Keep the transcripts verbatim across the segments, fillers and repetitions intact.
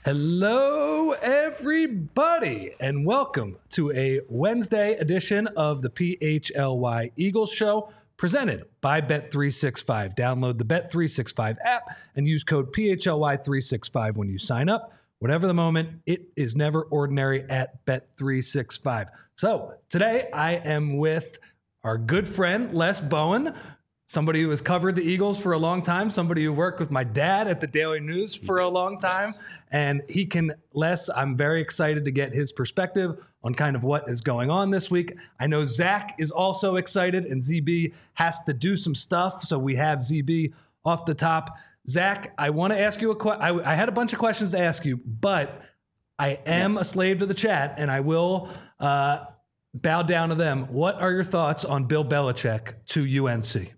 Hello, everybody, and welcome to a Wednesday edition of the P H L Y Eagles Show, presented by Bet three sixty-five. Download the Bet three sixty-five app and use code P H L Y three sixty-five when you sign up. Whatever the moment, it is never ordinary at Bet three sixty-five. So today I am with our good friend, Les Bowen, somebody who has covered the Eagles for a long time, somebody who worked with my dad at the Daily News for a long time. And he can, Les, I'm very excited to get his perspective on kind of what is going on this week. I know Zach is also excited, and Z B has to do some stuff. So we have Z B off the top. Zach, I want to ask you a question. I had a bunch of questions to ask you, but I am a slave to the chat, and I will uh, bow down to them. What are your thoughts on Bill Belichick to U N C?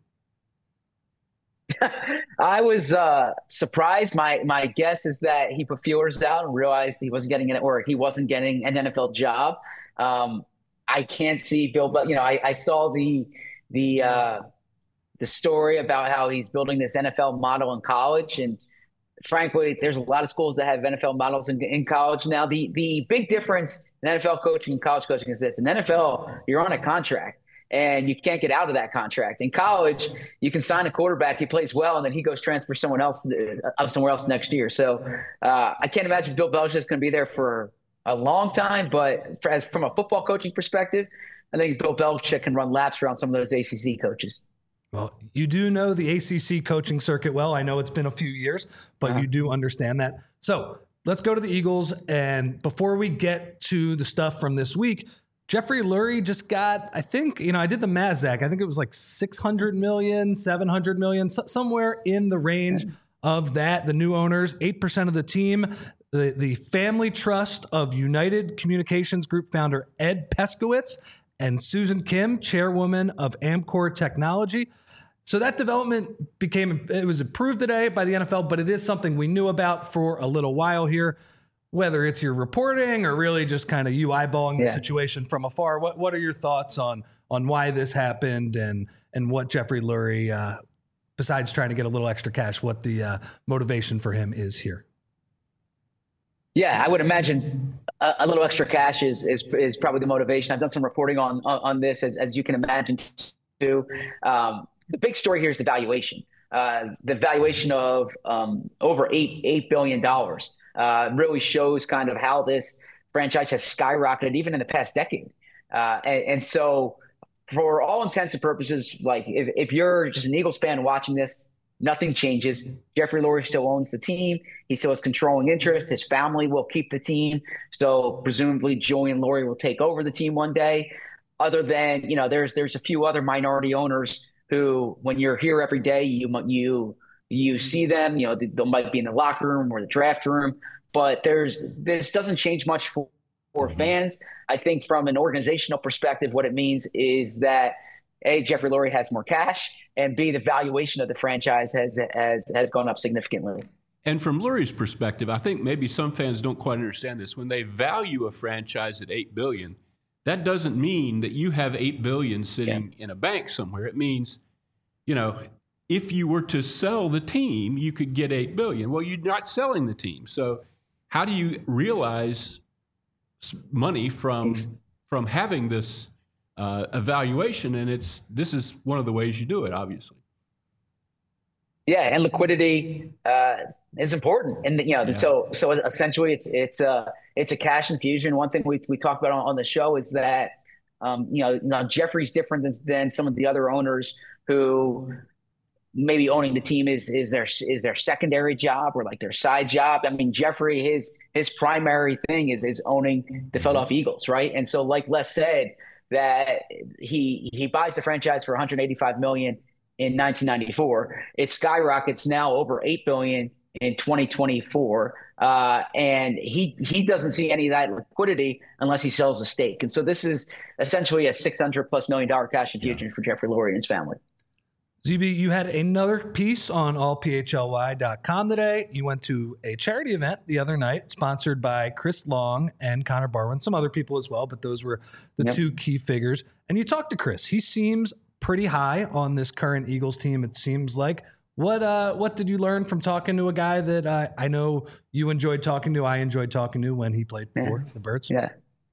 I was uh, surprised. My my guess is that he put feelers out and realized he wasn't getting it, or he wasn't getting an N F L job. Um, I can't see Bill, but you know, I, I saw the the uh, the story about how he's building this N F L model in college, and frankly, there's a lot of schools that have N F L models in, in college now. The the big difference in N F L coaching and college coaching is this: in N F L, you're on a contract. And you can't get out of that contract. In college, you can sign a quarterback, he plays well, and then he goes transfer someone else uh, somewhere else next year. So uh, I can't imagine Bill Belichick is going to be there for a long time. But for, as from a football coaching perspective, I think Bill Belichick can run laps around some of those A C C coaches. Well, you do know the A C C coaching circuit well. I know it's been a few years, but uh-huh. you do understand that. So let's go to the Eagles. And before we get to the stuff from this week, Jeffrey Lurie just got, I think, you know, I did the math, Zach. I think it was like six hundred million, seven hundred million, so, somewhere in the range of that. The new owners, eight percent of the team, the, the family trust of United Communications Group founder Ed Peskowitz and Susan Kim, chairwoman of Amcor Technology. So that development became, it was approved today by the N F L, but it is something we knew about for a little while here. Whether it's your reporting or really just kind of you eyeballing the yeah. situation from afar, what what are your thoughts on on why this happened and and what Jeffrey Lurie, uh, besides trying to get a little extra cash, what the uh, motivation for him is here? Yeah, I would imagine a, a little extra cash is, is is probably the motivation. I've done some reporting on on, on this, as, as you can imagine, too. Um, the big story here is the valuation. Uh, the valuation of um, over eight eight billion dollars. Uh, really shows kind of how this franchise has skyrocketed even in the past decade. Uh, and, and so for all intents and purposes, like if, if you're just an Eagles fan watching this, nothing changes. Jeffrey Lurie still owns the team. He still has controlling interest. His family will keep the team. So presumably Julian Lurie will take over the team one day. Other than, you know, there's there's a few other minority owners who, when you're here every day, you you You see them, you know, they, they might be in the locker room or the draft room, but there's this doesn't change much for, for mm-hmm. fans. I think from an organizational perspective, what it means is that A, Jeffrey Lurie has more cash, and B, the valuation of the franchise has has has gone up significantly. And from Lurie's perspective, I think maybe some fans don't quite understand this. When they value a franchise at eight billion dollars, that doesn't mean that you have eight billion dollars sitting yeah. in a bank somewhere. It means, you know, if you were to sell the team, you could get eight billion dollars. Well, you're not selling the team. So how do you realize money from from having this uh, evaluation? And it's this is one of the ways you do it, obviously. Yeah, and liquidity uh, is important. And you know, yeah. so so essentially, it's it's a it's a cash infusion. One thing we we talk about on, on the show is that um, you know, now Jeffrey's different than, than some of the other owners who maybe owning the team is is their is their secondary job or like their side job. I mean, Jeffrey, his his primary thing is is owning the Philadelphia Eagles, right? And so, like Les said, that he he buys the franchise for one hundred eighty-five million dollars in nineteen ninety-four. It skyrockets now over eight billion dollars in twenty twenty-four, uh, and he he doesn't see any of that liquidity unless he sells a stake. And so, this is essentially a six hundred plus million dollar cash infusion yeah. for Jeffrey Lurie and his family. Z B, you had another piece on all P H L Y dot com today. You went to a charity event the other night sponsored by Chris Long and Connor Barwin, some other people as well, but those were the yep. two key figures. And you talked to Chris. He seems pretty high on this current Eagles team, it seems like. What uh, what did you learn from talking to a guy that uh, I know you enjoyed talking to? I enjoyed talking to when he played for yeah. the Birds. Yeah.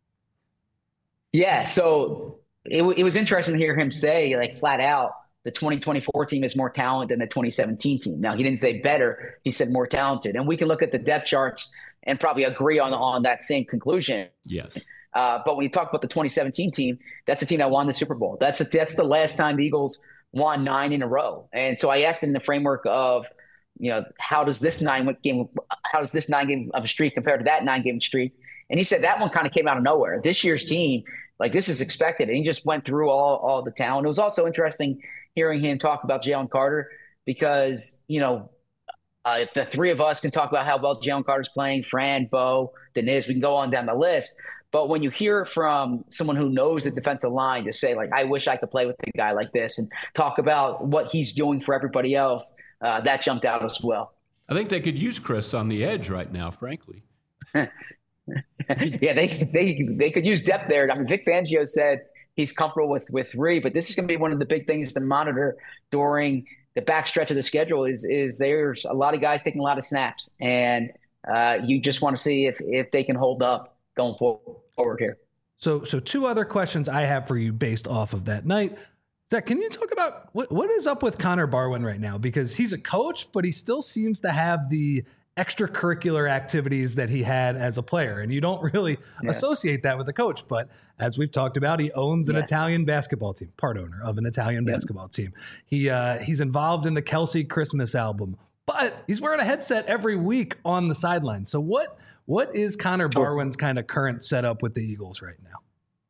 Yeah. So it, it was interesting to hear him say, like, flat out, the twenty twenty-four team is more talented than the twenty seventeen team. Now, he didn't say better. He said more talented. And we can look at the depth charts and probably agree on, on that same conclusion. Yes. Uh, but when you talk about the twenty seventeen team, that's a team that won the Super Bowl. That's a, that's the last time the Eagles won nine in a row. And so I asked him in the framework of, you know, how does this nine game, how does this nine game of a streak compare to that nine game streak? And he said that one kind of came out of nowhere. This year's team, like, this is expected. And he just went through all, all the talent. It was also interesting hearing him talk about Jalen Carter because, you know, uh, the three of us can talk about how well Jalen Carter's playing, Fran, Bo, Deniz, we can go on down the list. But when you hear from someone who knows the defensive line to say, like, I wish I could play with a guy like this and talk about what he's doing for everybody else, uh, that jumped out as well. I think they could use Chris on the edge right now, frankly. yeah, they, they, they could use depth there. I mean, Vic Fangio said he's comfortable with with three, but this is going to be one of the big things to monitor during the backstretch of the schedule. Is is there's a lot of guys taking a lot of snaps, and uh, you just want to see if if they can hold up going forward here. So, so two other questions I have for you based off of that night. Zach, can you talk about what what is up with Connor Barwin right now? Because he's a coach, but he still seems to have the extracurricular activities that he had as a player. And you don't really yeah. associate that with a coach. But as we've talked about, he owns an yeah. Italian basketball team, part owner of an Italian yeah. basketball team. He uh, he's involved in the Kelsey Christmas album, but he's wearing a headset every week on the sideline. So what what is Connor Barwin's kind of current setup with the Eagles right now?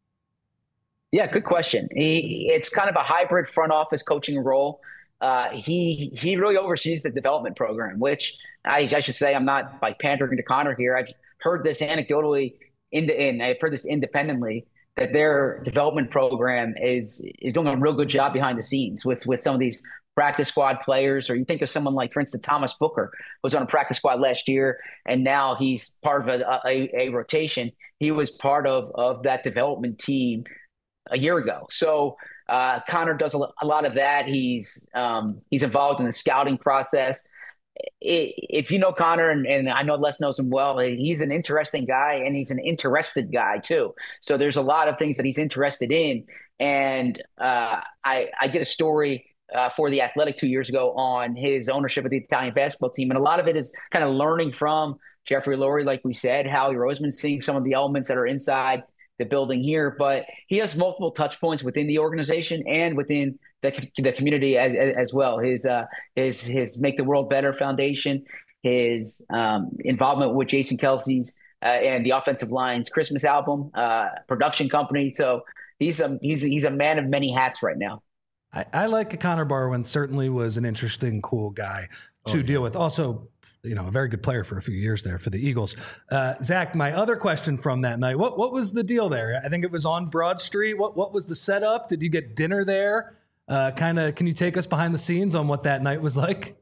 Yeah, good question. He, it's kind of a hybrid front office coaching role. Uh, he he really oversees the development program, which I, I should say I'm not like pandering to Connor here. I've heard this anecdotally, in the, and I've heard this independently, that their development program is is doing a real good job behind the scenes with with some of these practice squad players. Or you think of someone like, for instance, Thomas Booker was on a practice squad last year, and now he's part of a, a, a rotation. He was part of of that development team a year ago. So uh, Connor does a, a lot of that. He's um, he's involved in the scouting process. It, if you know Connor, and, and I know Les knows him well, he's an interesting guy, and he's an interested guy too. So there's a lot of things that he's interested in. And uh, I, I did a story uh, for The Athletic two years ago on his ownership of the Italian basketball team. And a lot of it is kind of learning from Jeffrey Lurie, like we said, Howie Roseman, seeing some of the elements that are inside the building here, but he has multiple touch points within the organization and within the, the community as, as well. His, uh, his, his Make the World Better Foundation, his um, involvement with Jason Kelsey's uh, and the Offensive Line's Christmas album, uh, production company. So he's a, he's, he's a man of many hats right now. I, I like Connor Barwin. Certainly was an interesting, cool guy to oh, yeah. deal with. Also, you know, a very good player for a few years there for the Eagles. Uh, Zach, my other question from that night, what what was the deal there? I think it was on Broad Street. What what was the setup? Did you get dinner there? Uh, kind of, can you take us behind the scenes on what that night was like?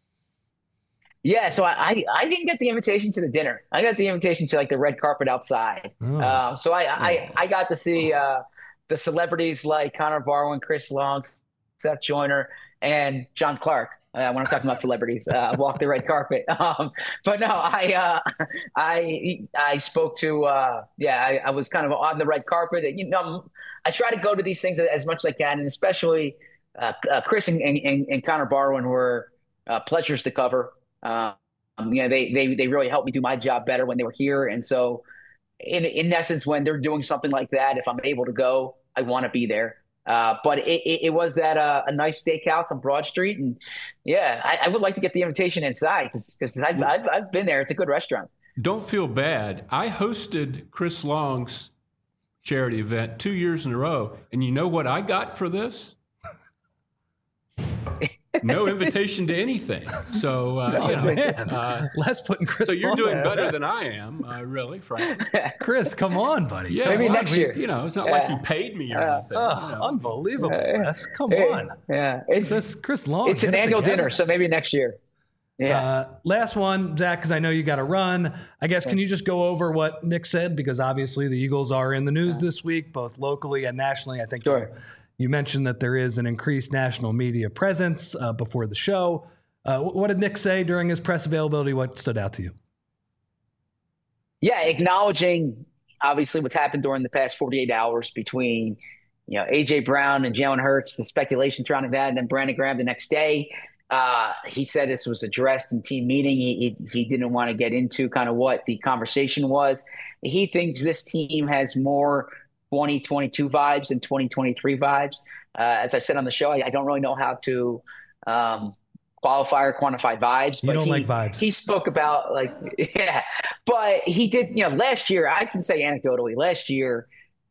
Yeah, so I, I didn't get the invitation to the dinner. I got the invitation to like the red carpet outside. Oh. Uh, so I, I I got to see uh, the celebrities like Connor Barwin, Chris Long, Seth Joyner, and John Clark. Uh, when I'm talking about celebrities, uh, walk the red carpet. Um, but no, I uh, I I spoke to uh, yeah, I, I was kind of on the red carpet. You know, I try to go to these things as much as I can, and especially uh, uh, Chris and, and, and Connor Barwin were uh, pleasures to cover. Um, you know, they they they really helped me do my job better when they were here, and so in in essence, when they're doing something like that, if I'm able to go, I want to be there. Uh, but it, it, it was at a, a nice steakhouse on Broad Street. And yeah, I, I would like to get the invitation inside because I've, I've, I've been there. It's a good restaurant. Don't feel bad. I hosted Chris Long's charity event two years in a row. And you know what I got for this? No invitation to anything. So, uh, oh, you know, man. Uh, Les putting Chris. So you're Long doing there. better than I am, uh, really, frankly. Chris, come on, buddy. Yeah, maybe well, next I mean, year. You know, it's not uh, like he paid me or uh, anything. Oh, you know. unbelievable, Les. Come hey, on. Yeah, it's Chris, Chris Long. It's an annual dinner, so maybe next year. Yeah. Uh, last one, Zach, because I know you got to run. I guess, can you just go over what Nick said? Because obviously the Eagles are in the news yeah. this week, both locally and nationally. I think sure. you, you mentioned that there is an increased national media presence uh, before the show. Uh, what did Nick say during his press availability? What stood out to you? Yeah, acknowledging obviously what's happened during the past forty-eight hours between, you know, A J Brown and Jalen Hurts, the speculation surrounding that, and then Brandon Graham the next day. Uh, he said this was addressed in team meeting. He, he he didn't want to get into kind of what the conversation was. He thinks this team has more twenty twenty-two vibes than twenty twenty-three vibes. Uh, as I said on the show, I, I don't really know how to um, qualify or quantify vibes. You but don't he, like vibes. He spoke about like, yeah, but he did, you know, last year, I can say anecdotally, last year,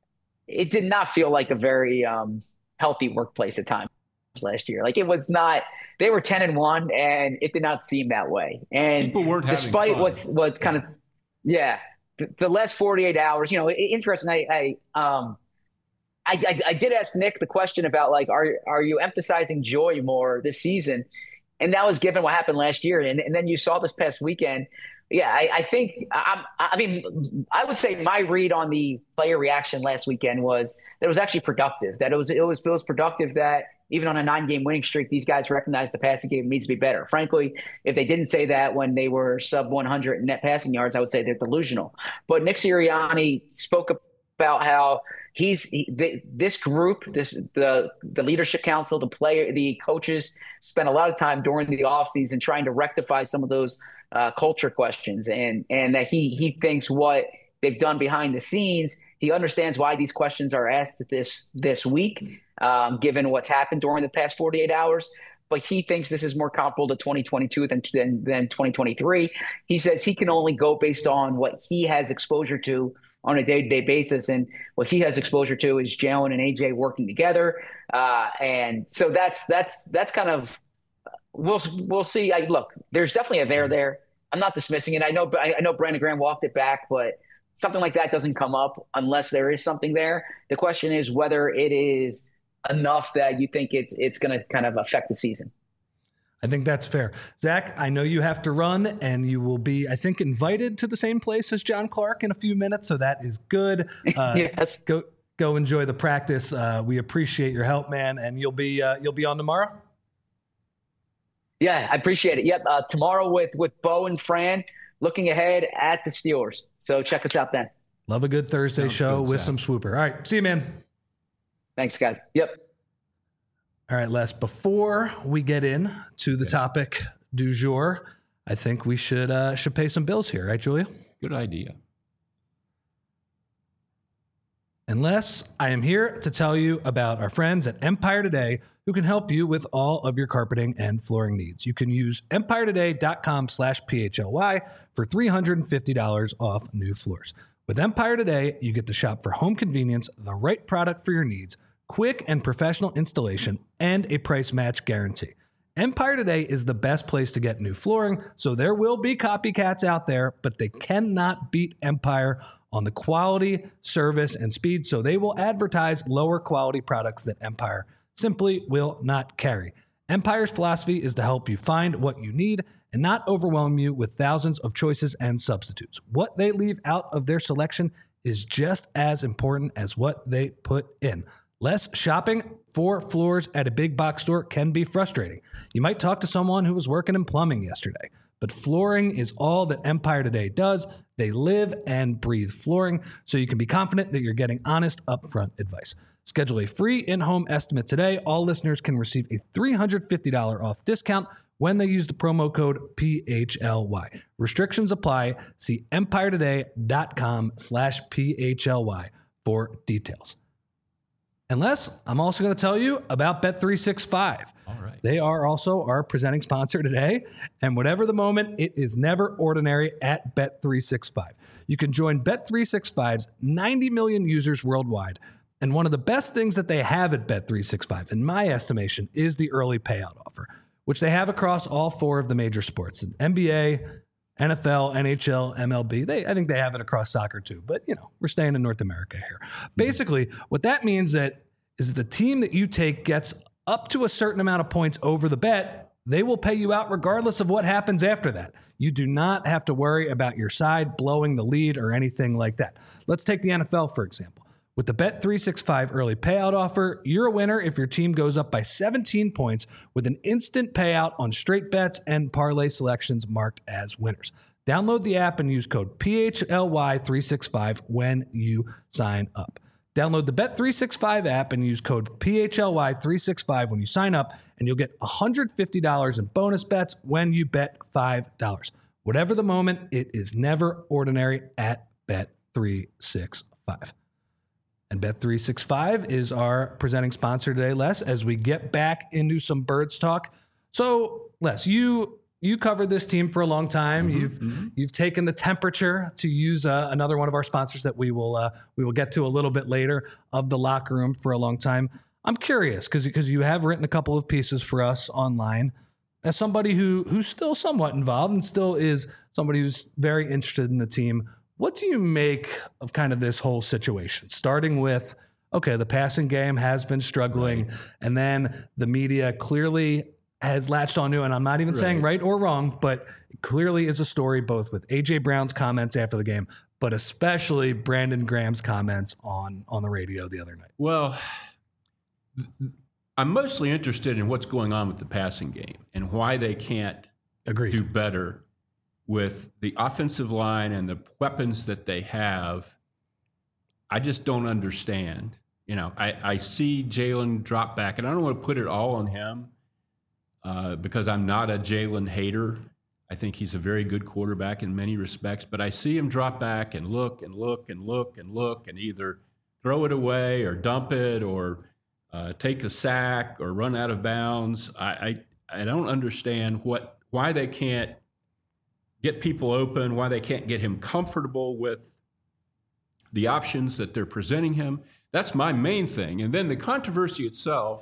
it did not feel like a very um, healthy workplace at times last year. Like it was not, they were ten and one and it did not seem that way. And People weren't having despite fun. what's, what kind of, yeah, the, the last forty-eight hours, you know, interesting. I, I, um, I, I, I did ask Nick the question about like, are, are you emphasizing joy more this season? And that was given what happened last year. And, and then you saw this past weekend. Yeah, I, I think I, I mean I would say my read on the player reaction last weekend was that it was actually productive. That it was it was it was productive that even on a nine-game winning streak, these guys recognized the passing game needs to be better. Frankly, if they didn't say that when they were sub one hundred in net passing yards, I would say they're delusional. But Nick Sirianni spoke about how he's he, the, this group, this the the leadership council, the player, the coaches spent a lot of time during the offseason trying to rectify some of those Uh, culture questions, and and that he he thinks what they've done behind the scenes. He understands why these questions are asked this this week, um, given what's happened during the past forty-eight hours. But he thinks this is more comparable to twenty twenty-two than than, than twenty twenty-three. He says he can only go based on what he has exposure to on a day-to-day basis, and what he has exposure to is Jalen and A J working together, uh, and so that's that's that's kind of. We'll we'll see. I, look, there's definitely a there there. I'm not dismissing it. I know I know Brandon Graham walked it back, but something like that doesn't come up unless there is something there. The question is whether it is enough that you think it's it's going to kind of affect the season. I think that's fair. Zach, I know you have to run, and you will be, I think, invited to the same place as John Clark in a few minutes, so that is good. Uh, yes. Go go enjoy the practice. Uh, we appreciate your help, man, and you'll be uh, you'll be on tomorrow. Yeah, I appreciate it. Yep. Uh, tomorrow with, with Bo and Fran, looking ahead at the Steelers. So check us out then. Love a good Thursday Sounds show good, with Zach. some swooper. All right. See you, man. Thanks, guys. Yep. All right, Les, before we get in to the Yeah. topic du jour, I think we should uh, should pay some bills here. Right, Julia? Good idea. And Les, I am here to tell you about our friends at Empire Today, who can help you with all of your carpeting and flooring needs. You can use empire today dot com slash P H L Y for three hundred fifty dollars off new floors. With Empire Today, you get to shop for home convenience, the right product for your needs, quick and professional installation, and a price match guarantee. Empire Today is the best place to get new flooring, so there will be copycats out there, but they cannot beat Empire on the quality, service, and speed, so they will advertise lower quality products that Empire simply will not carry. Empire's philosophy is to help you find what you need and not overwhelm you with thousands of choices and substitutes. What they leave out of their selection is just as important as what they put in. Less shopping for floors at a big box store can be frustrating. You might talk to someone who was working in plumbing yesterday, but flooring is all that Empire Today does. They live and breathe flooring, so you can be confident that you're getting honest, upfront advice. Schedule a free in-home estimate today. All listeners can receive a three hundred fifty dollars off discount when they use the promo code P H L Y. Restrictions apply. See empire today dot com slash P H L Y for details. And Les, I'm also going to tell you about Bet three sixty-five. All right. They are also our presenting sponsor today. And whatever the moment, it is never ordinary at Bet three sixty-five. You can join Bet three sixty-five's ninety million users worldwide. And one of the best things that they have at Bet three sixty-five, in my estimation, is the early payout offer, which they have across all four of the major sports: N B A, N F L, N H L, M L B. They, I think they have it across soccer too, but you know, we're staying in North America here. Basically, what that means that is the team that you take gets up to a certain amount of points over the bet, they will pay you out regardless of what happens after that. You do not have to worry about your side blowing the lead or anything like that. Let's take the N F L, for example. With the Bet three sixty-five early payout offer, you're a winner if your team goes up by seventeen points with an instant payout on straight bets and parlay selections marked as winners. Download the app and use code P H L Y three sixty-five when you sign up. Download the Bet three sixty-five app and use code P H L Y three sixty-five when you sign up, and you'll get one hundred fifty dollars in bonus bets when you bet five dollars. Whatever the moment, it is never ordinary at Bet three sixty-five. And Bet three sixty-five is our presenting sponsor today, Les, as we get back into some Birds talk. So, Les, you you covered this team for a long time. Mm-hmm, you've mm-hmm. you've taken the temperature, to use uh, another one of our sponsors that we will uh, we will get to a little bit later, of the locker room for a long time. I'm curious because because you have written a couple of pieces for us online. As somebody who who's still somewhat involved and still is somebody who's very interested in the team, what do you make of kind of this whole situation? Starting with, okay, the passing game has been struggling, right. and then the media clearly has latched onto, and I'm not even right. saying right or wrong, but it clearly is a story both with A J Brown's comments after the game, but especially Brandon Graham's comments on, on the radio the other night. Well, I'm mostly interested in what's going on with the passing game and why they can't Agreed. do better with the offensive line and the weapons that they have. I just don't understand. You know, I, I see Jalen drop back, and I don't want to put it all on him uh, because I'm not a Jalen hater. I think he's a very good quarterback in many respects, but I see him drop back and look and look and look and look and either throw it away or dump it or uh, take a sack or run out of bounds. I, I, I don't understand what why they can't get people open, why they can't get him comfortable with the options that they're presenting him. That's my main thing. And then the controversy itself,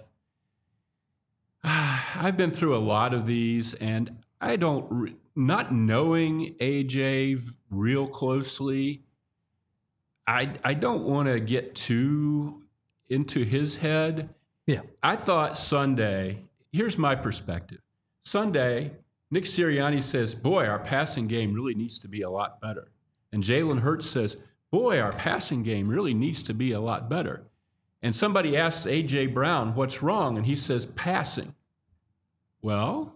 I've been through a lot of these, and I don't, re- not knowing A J real closely, I, I don't want to get too into his head. Yeah. I thought Sunday, here's my perspective. Sunday, Nick Sirianni says, boy, our passing game really needs to be a lot better. And Jalen Hurts says, boy, our passing game really needs to be a lot better. And somebody asks A J Brown, what's wrong? And he says, passing. Well,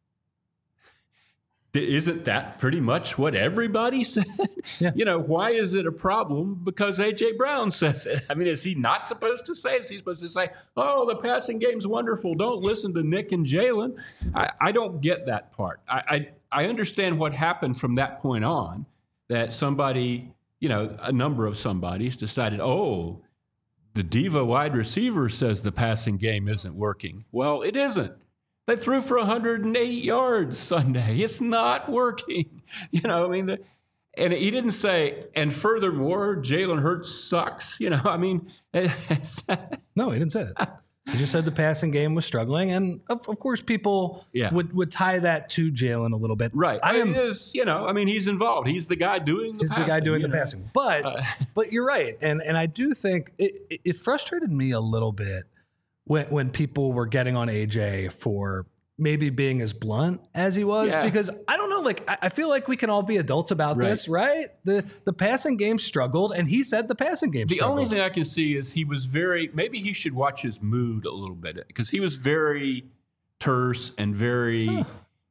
isn't that pretty much what everybody said? Yeah. You know, why is it a problem? Because A J Brown says it. I mean, is he not supposed to say it? Is he supposed to say, oh, the passing game's wonderful, don't listen to Nick and Jalen? I, I don't get that part. I, I I understand what happened from that point on, that somebody, you know, a number of somebodies decided, oh, the diva wide receiver says the passing game isn't working. Well, it isn't. They threw for one hundred eight yards Sunday. It's not working. You know, I mean, the, and he didn't say, and furthermore, Jalen Hurts sucks. You know, I mean. No, he didn't say that. He just said the passing game was struggling. And, of, of course, people yeah. would, would tie that to Jalen a little bit. Right. I, I mean, am, it is, you know, I mean, he's involved. He's the guy doing the he's passing. He's the guy doing the know? passing. But, uh, but you're right. And, and I do think it, it frustrated me a little bit when when people were getting on A J for maybe being as blunt as he was, yeah. because I don't know, like, I, I feel like we can all be adults about right. this, right? The the passing game struggled, and he said the passing game the struggled. The only thing I can see is he was very, maybe he should watch his mood a little bit, because he was very terse and very, huh.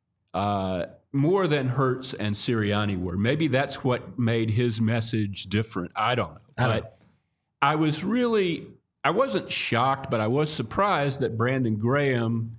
uh, more than Hurts and Sirianni were. Maybe that's what made his message different. I don't know. I don't but know. I was really, I wasn't shocked, but I was surprised that Brandon Graham,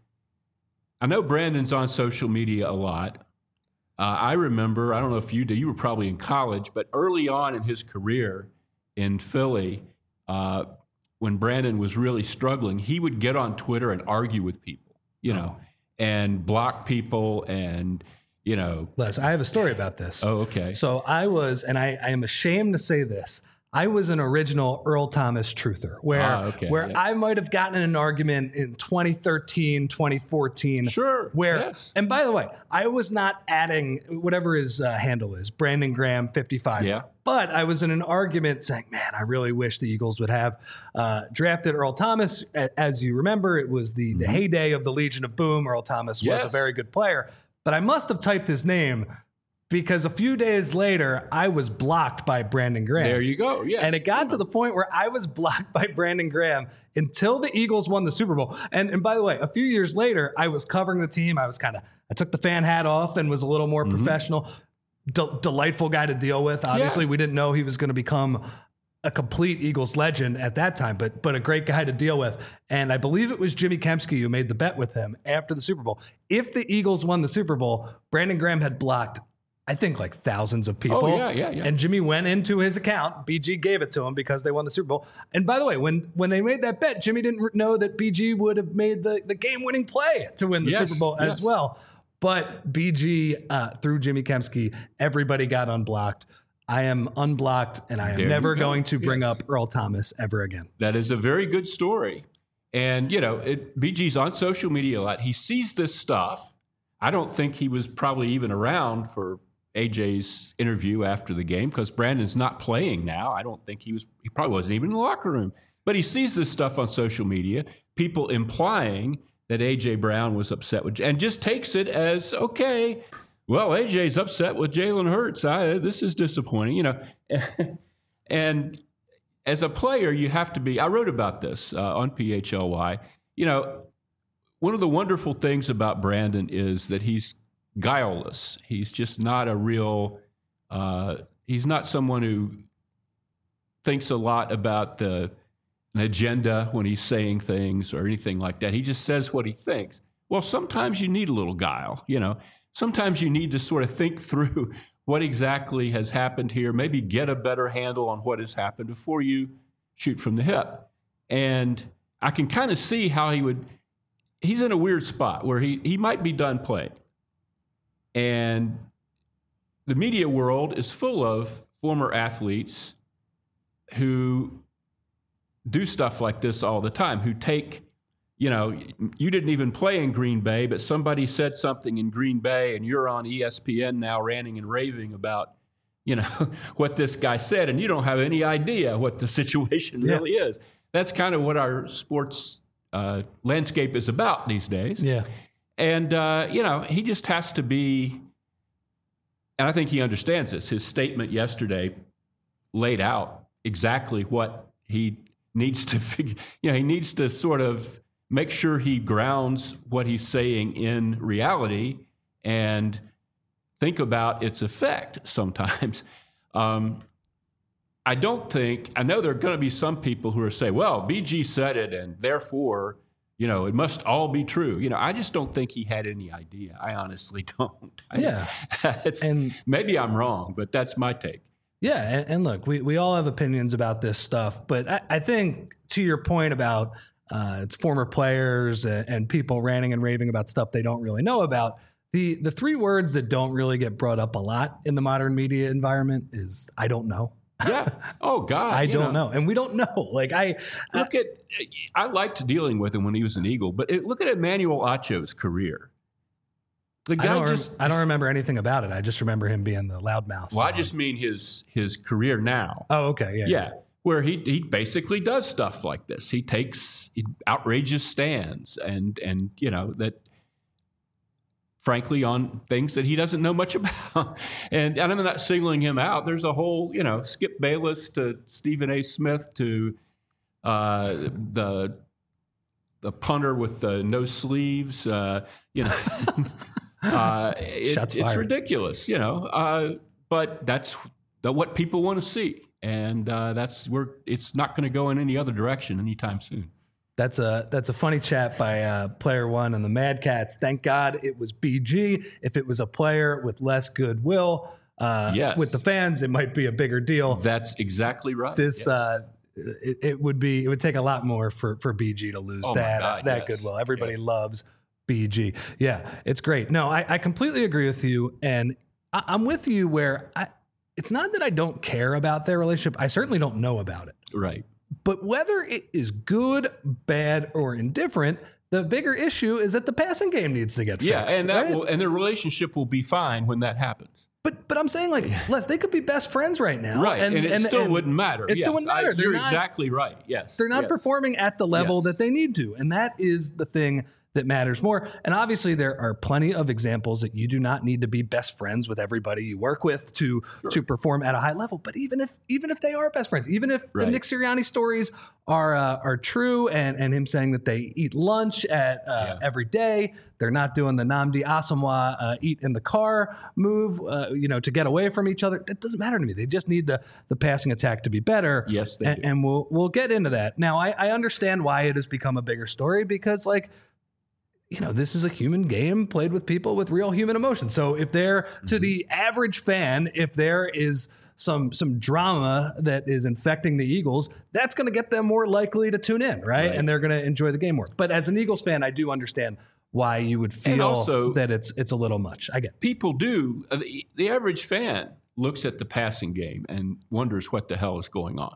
I know Brandon's on social media a lot. Uh, I remember, I don't know if you do, you were probably in college, but early on in his career in Philly, uh, when Brandon was really struggling, he would get on Twitter and argue with people, you know, oh. and block people and, you know. Les, I have a story about this. Oh, okay. So I was, and I, I am ashamed to say this, I was an original Earl Thomas truther, where ah, okay, where yeah. I might have gotten in an argument in twenty thirteen, twenty fourteen. Sure. Where, yes. And by the way, I was not adding whatever his uh, handle is, Brandon Graham fifty-five. Yeah. But I was in an argument saying, man, I really wish the Eagles would have uh, drafted Earl Thomas. As you remember, it was the, mm-hmm. the heyday of the Legion of Boom. Earl Thomas yes. was a very good player. But I must have typed his name because a few days later, I was blocked by Brandon Graham. There you go. Yeah. And it got to the point where I was blocked by Brandon Graham until the Eagles won the Super Bowl. And, and by the way, a few years later, I was covering the team. I was kind of, I took the fan hat off and was a little more mm-hmm. professional. De- delightful guy to deal with. Obviously, yeah. we didn't know he was going to become a complete Eagles legend at that time, but but a great guy to deal with. And I believe it was Jimmy Kempski who made the bet with him after the Super Bowl. If the Eagles won the Super Bowl, Brandon Graham had blocked, I think, like thousands of people. Oh, yeah, yeah, yeah. And Jimmy went into his account. B G gave it to him because they won the Super Bowl. And by the way, when when they made that bet, Jimmy didn't know that B G would have made the, the game-winning play to win the yes, Super Bowl yes. as well. But B G, uh, through Jimmy Kempski, everybody got unblocked. I am unblocked, and I am there never go. going to bring yes. up Earl Thomas ever again. That is a very good story. And, you know, it, B G's on social media a lot. He sees this stuff. I don't think he was probably even around for A J's interview after the game because Brandon's not playing now. I don't think he was, he probably wasn't even in the locker room. But he sees this stuff on social media, people implying that A J Brown was upset with, and just takes it as, okay, well, A J's upset with Jalen Hurts. I, this is disappointing, you know. And as a player, you have to be, I wrote about this uh, on P H L Y. You know, one of the wonderful things about Brandon is that he's guileless. He's just not a real, uh, he's not someone who thinks a lot about the an agenda when he's saying things or anything like that. He just says what he thinks. Well, sometimes you need a little guile, you know. Sometimes you need to sort of think through what exactly has happened here, maybe get a better handle on what has happened before you shoot from the hip. And I can kind of see how he would, he's in a weird spot where he, he might be done playing. And the media world is full of former athletes who do stuff like this all the time, who take, you know, you didn't even play in Green Bay, but somebody said something in Green Bay and you're on E S P N now ranting and raving about, you know, what this guy said, and you don't have any idea what the situation yeah. really is. That's kind of what our sports uh, landscape is about these days. Yeah. And, uh, you know, he just has to be, and I think he understands this. His statement yesterday laid out exactly what he needs to figure, you know, he needs to sort of make sure he grounds what he's saying in reality and think about its effect sometimes. Um, I don't think, I know there are going to be some people who are saying, well, B G said it and therefore, you know, it must all be true. You know, I just don't think he had any idea. I honestly don't. Yeah. it's, and maybe I'm wrong, but that's my take. Yeah. And, and look, we, we all have opinions about this stuff, but I, I think to your point about uh, it's former players and, and people ranting and raving about stuff they don't really know about. The, the three words that don't really get brought up a lot in the modern media environment is, I don't know. Yeah. Oh God. I don't know. know. And we don't know. Like I look I, at, I liked dealing with him when he was an Eagle, but it, look at Emmanuel Acho's career. The guy I don't just, rem- I don't remember anything about it. I just remember him being the loudmouth. Well, I just mean his, his career now. Oh, okay. Yeah. Yeah. yeah. Where he, he basically does stuff like this. He takes outrageous stands and, and, you know, that, frankly, on things that he doesn't know much about. And, and I'm not singling him out. There's a whole, you know, Skip Bayless to Stephen A. Smith to uh, the the punter with the no sleeves. Uh, you know, uh, it, it's ridiculous, you know. Uh, but that's the, what people want to see. And uh, that's where it's not going to go in any other direction anytime soon. That's a that's a funny chat by uh, Player One and the Mad Cats. Thank God it was B G. If it was a player with less goodwill uh, yes. with the fans, it might be a bigger deal. That's exactly right. This yes. uh, it, it would be it would take a lot more for, for B G to lose oh that God, that yes. goodwill. Everybody yes. loves B G. Yeah, it's great. No, I, I completely agree with you, and I, I'm with you where I. It's not that I don't care about their relationship. I certainly don't know about it. Right. But whether it is good, bad, or indifferent, the bigger issue is that the passing game needs to get fixed. Yeah, and that right? will, and their relationship will be fine when that happens. But but I'm saying, like, Les, they could be best friends right now. Right, and, and it and, still and wouldn't matter. It yes. still wouldn't matter. I, you're not, exactly right, yes. They're not yes. performing at the level yes. that they need to. And that is the thing that matters more. And obviously there are plenty of examples that you do not need to be best friends with everybody you work with to sure. to perform at a high level. But even if even if they are best friends, even if right. the Nick Sirianni stories are uh, are true, and and him saying that they eat lunch at uh, yeah. every day, they're not doing the Nnamdi Asomugha uh, eat in the car move, uh, you know, to get away from each other. That doesn't matter to me. They just need the the passing attack to be better. Yes, they and, do. And we'll we'll get into that. Now, I, I understand why it has become a bigger story because, like, you know, this is a human game played with people with real human emotions. So if there, mm-hmm. to the average fan, if there is some some drama that is infecting the Eagles, that's going to get them more likely to tune in, right? right. And they're going to enjoy the game more. But as an Eagles fan, I do understand why you would feel also, that it's it's a little much. I get it. People do. Uh, the, the average fan looks at the passing game and wonders what the hell is going on,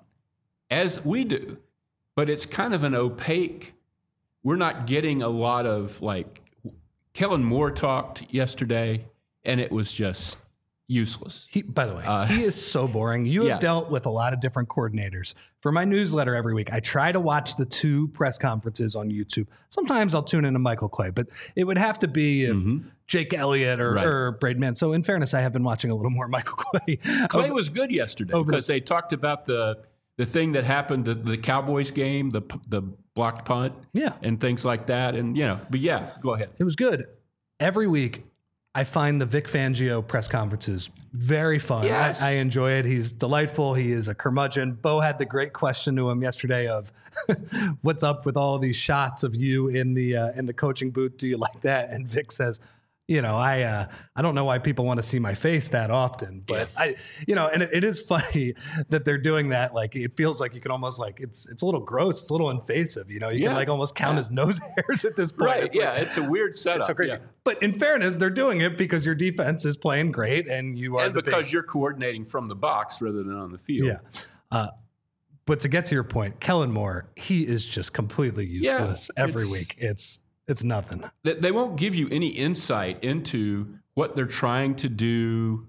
as we do. But it's kind of an opaque. We're not getting a lot of, like, Kellen Moore talked yesterday, and it was just useless. He, by the way, uh, he is so boring. You have yeah. dealt with a lot of different coordinators. For my newsletter every week, I try to watch the two press conferences on YouTube. Sometimes I'll tune into Michael Clay, but it would have to be if mm-hmm. Jake Elliott or, right. or Braden Mann. So in fairness, I have been watching a little more Michael Clay. Clay over, was good yesterday because the, they talked about the the thing that happened at the Cowboys game, the the blocked punt, yeah, and things like that. And, you know, but yeah, go ahead. It was good. Every week, I find the Vic Fangio press conferences very fun. Yes. I, I enjoy it. He's delightful. He is a curmudgeon. Bo had the great question to him yesterday of what's up with all these shots of you in the uh, in the coaching booth? Do you like that? And Vic says, you know, I uh, I don't know why people want to see my face that often, but yeah. I, you know, and it, it is funny that they're doing that. Like, it feels like you can almost like it's it's a little gross. It's a little invasive. You know, you yeah. can like almost count yeah. his nose hairs at this point. Right? It's yeah, like, it's a weird setup. It's so crazy. Yeah. But in fairness, they're doing it because your defense is playing great and you are and the because big, you're coordinating from the box rather than on the field. Yeah. Uh, but to get to your point, Kellen Moore, he is just completely useless yeah, every week. It's It's nothing. They won't give you any insight into what they're trying to do,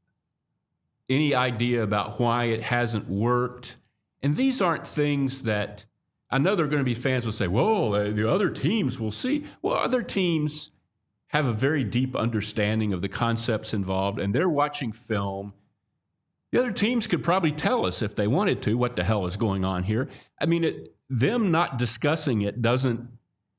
any idea about why it hasn't worked. And these aren't things that I know there are going to be fans who say, well, the other teams will see. Well, other teams have a very deep understanding of the concepts involved, and they're watching film. The other teams could probably tell us if they wanted to what the hell is going on here. I mean, it, them not discussing it doesn't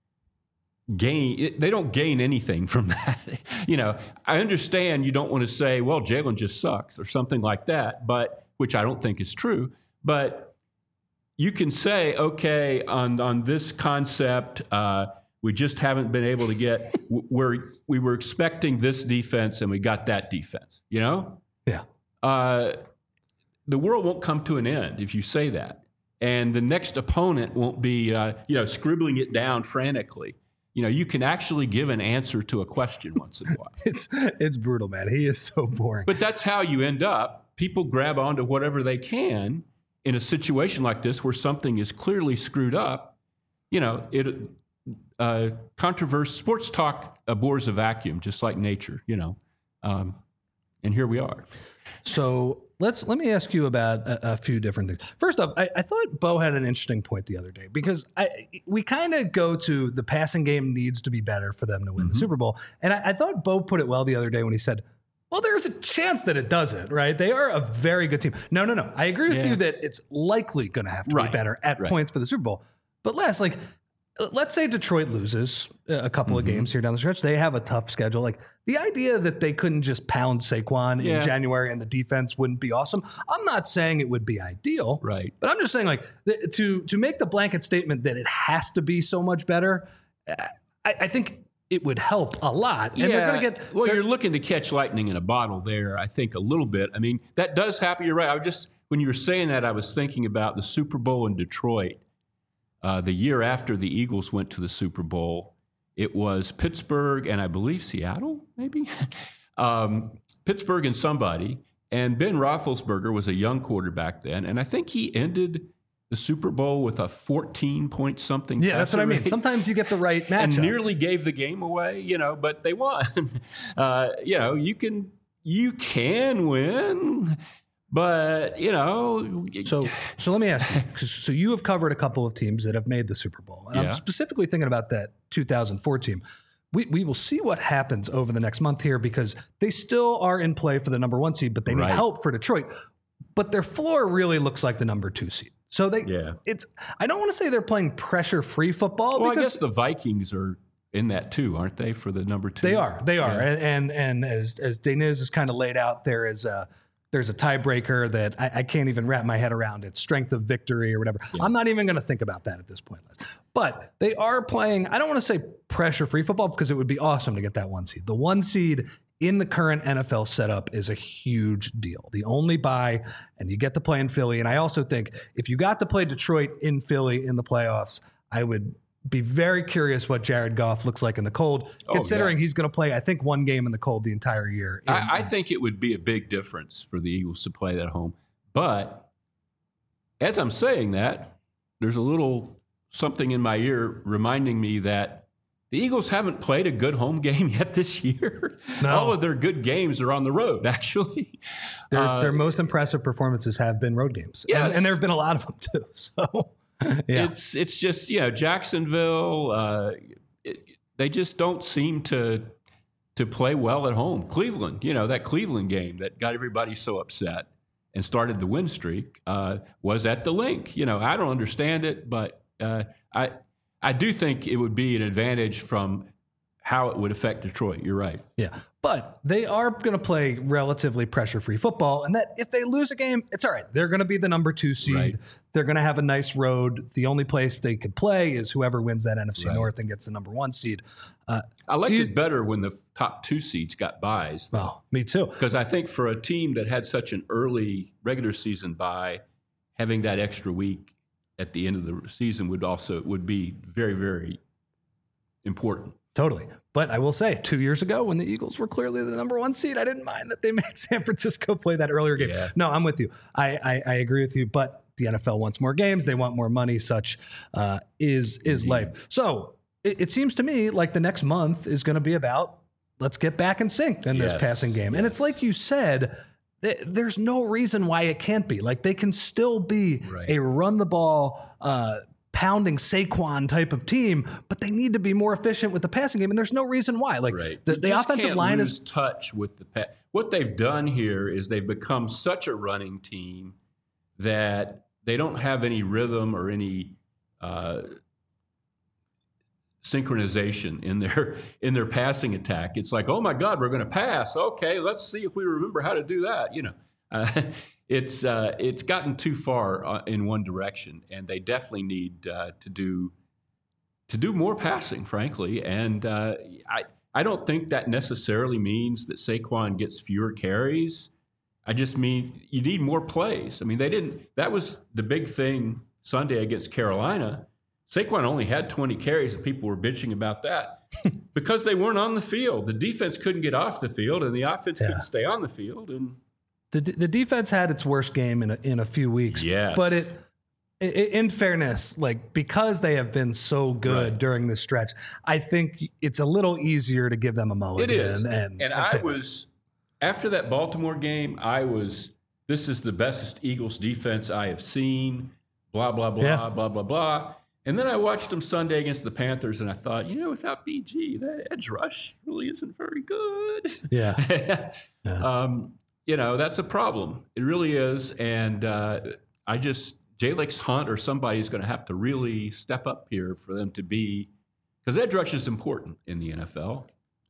gain it, they don't gain anything from that. You know, I understand you don't want to say, well, Jalen just sucks or something like that, but which I don't think is true. But you can say, okay, on on this concept, uh, we just haven't been able to get where we were expecting this defense and we got that defense, you know? Yeah. Uh, the world won't come to an end if you say that. And the next opponent won't be, uh, you know, scribbling it down frantically. You know, you can actually give an answer to a question once in a while. it's it's brutal, man. He is so boring. But that's how you end up. People grab onto whatever they can in a situation like this where something is clearly screwed up. You know, it uh, controversy, sports talk abhors a vacuum, just like nature. You know, um, and here we are. So let's let me ask you about a, a few different things. First off, I, I thought Bo had an interesting point the other day because I we kind of go to the passing game needs to be better for them to win mm-hmm. the Super Bowl, and I, I thought Bo put it well the other day when he said, "Well, there's a chance that it doesn't." Right? They are a very good team. No, no, no. I agree with yeah. you that it's likely going to have to right. be better at right. points for the Super Bowl. But Les, like, let's say Detroit loses a couple mm-hmm. of games here down the stretch. They have a tough schedule. Like, the idea that they couldn't just pound Saquon yeah. in January and the defense wouldn't be awesome. I'm not saying it would be ideal, right? But I'm just saying, like, th- to to make the blanket statement that it has to be so much better, I, I think it would help a lot. And yeah. they're going to get well. You're looking to catch lightning in a bottle there. I think a little bit. I mean, that does happen. You're right. I was just when you were saying that, I was thinking about the Super Bowl in Detroit. Uh, the year after the Eagles went to the Super Bowl, it was Pittsburgh and I believe Seattle, maybe? um, Pittsburgh and somebody. And Ben Roethlisberger was a young quarterback then. And I think he ended the Super Bowl with a fourteen-point something. Yeah, that's what I mean. Rate. Sometimes you get the right matchup. And nearly gave the game away, you know, but they won. uh, you know, you can you can win. But, you know. So so let me ask you, 'cause- so you have covered a couple of teams that have made the Super Bowl. And Yeah. I'm specifically thinking about that two thousand four team. We, we will see what happens over the next month here because they still are in play for the number one seed, but they need Right. help for Detroit. But their floor really looks like the number two seed. So they, Yeah. it's. I don't want to say they're playing pressure-free football. Well, I because guess the Vikings are in that too, aren't they, for the number two? They are. They are. Yeah. And, and and as as Deniz is kind of laid out, there is a there's a tiebreaker that I, I can't even wrap my head around. It's strength of victory or whatever. Yeah. I'm not even going to think about that at this point. But they are playing. I don't want to say pressure free football because it would be awesome to get that one seed. The one seed in the current N F L setup is a huge deal. The only bye, and you get to play in Philly. And I also think if you got to play Detroit in Philly in the playoffs, I would be very curious what Jared Goff looks like in the cold, Oh, considering yeah. he's going to play, I think, one game in the cold the entire year. I, I think it would be a big difference for the Eagles to play that at home. But as I'm saying that, there's a little something in my ear reminding me that the Eagles haven't played a good home game yet this year. No. All of their good games are on the road, actually. Their, Uh, their most impressive performances have been road games. Yes. And, and there have been a lot of them, too. So, yeah. It's it's just, you know, Jacksonville, uh, it, they just don't seem to to play well at home. Cleveland, you know, that Cleveland game that got everybody so upset and started the win streak uh, was at the Link. You know, I don't understand it, but uh, I I do think it would be an advantage from how it would affect Detroit. You're right. Yeah. But they are going to play relatively pressure-free football, and that if they lose a game, it's all right. They're going to be the number two seed. Right. They're going to have a nice road. The only place they could play is whoever wins that N F C Right. North and gets the number one seed. Uh, I liked do you- it better when the top two seeds got buys. well, me too. Because I think for a team that had such an early regular season bye, having that extra week at the end of the season would also would be very, very important. Totally. But I will say, two years ago, when the Eagles were clearly the number one seed, I didn't mind that they made San Francisco play that earlier game. Yeah. No, I'm with you. I, I, I agree with you. But the N F L wants more games. They want more money. Such uh, is is Indeed. life. So it, it seems to me like the next month is going to be about let's get back in sync in this Yes, passing game. And it's yes. like you said, th- there's no reason why it can't be. Like they can still be Right. a run the ball, uh, pounding Saquon type of team, but they need to be more efficient with the passing game. And there's no reason why. Like Right. the, You the just offensive can't line lose is touch with the pa- what they've done here is they've become such a running team that they don't have any rhythm or any uh, synchronization in their in their passing attack. It's like, oh my God, we're going to pass. Okay, let's see if we remember how to do that. You know, uh, it's uh, it's gotten too far uh, in one direction, and they definitely need uh, to do to do more passing, frankly. And uh, I I don't think that necessarily means that Saquon gets fewer carries. I just mean you need more plays. I mean, they didn't. That was the big thing Sunday against Carolina. Saquon only had twenty carries, and people were bitching about that because they weren't on the field. The defense couldn't get off the field, and the offense Yeah. couldn't stay on the field. And the the defense had its worst game in a, in a few weeks. Yes. But it, i- in fairness, like because they have been so good Right. during this stretch, I think it's a little easier to give them a mulligan. it is. And, And, and I say that. was after that Baltimore game. I was. This is the best Eagles defense I have seen. Blah blah blah Yeah. blah blah blah. And then I watched them Sunday against the Panthers, and I thought, you know, without B G, that edge rush really isn't very good. Yeah. Yeah. um, you know, that's a problem. It really is. And uh, I just, Jalix Hunt or somebody is going to have to really step up here for them to be, because edge rush is important in the N F L.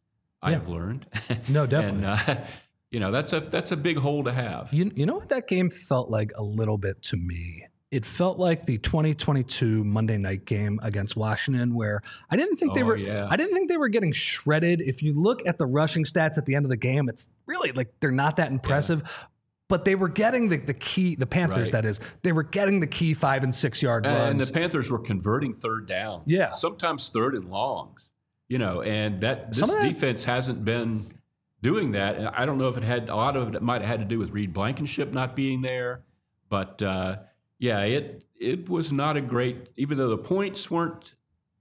I Yeah. have learned. No, definitely. and, uh, you know, that's a that's a big hole to have. You, you know what that game felt like a little bit to me? It felt like the twenty twenty-two Monday night game against Washington, where I didn't think they Oh, were. yeah. I didn't think they were getting shredded. If you look at the rushing stats at the end of the game, it's really like they're not that impressive. But they were getting the, the key. The Panthers, Right. that is, they were getting the key five and six yard And runs. the Panthers were converting third downs. Yeah. Sometimes third and longs. You know, and that this Some of that- defense hasn't been doing that. And I don't know if it had a lot of it might have had to do with Reed Blankenship not being there, but uh, yeah, it it was not a great. Even though the points weren't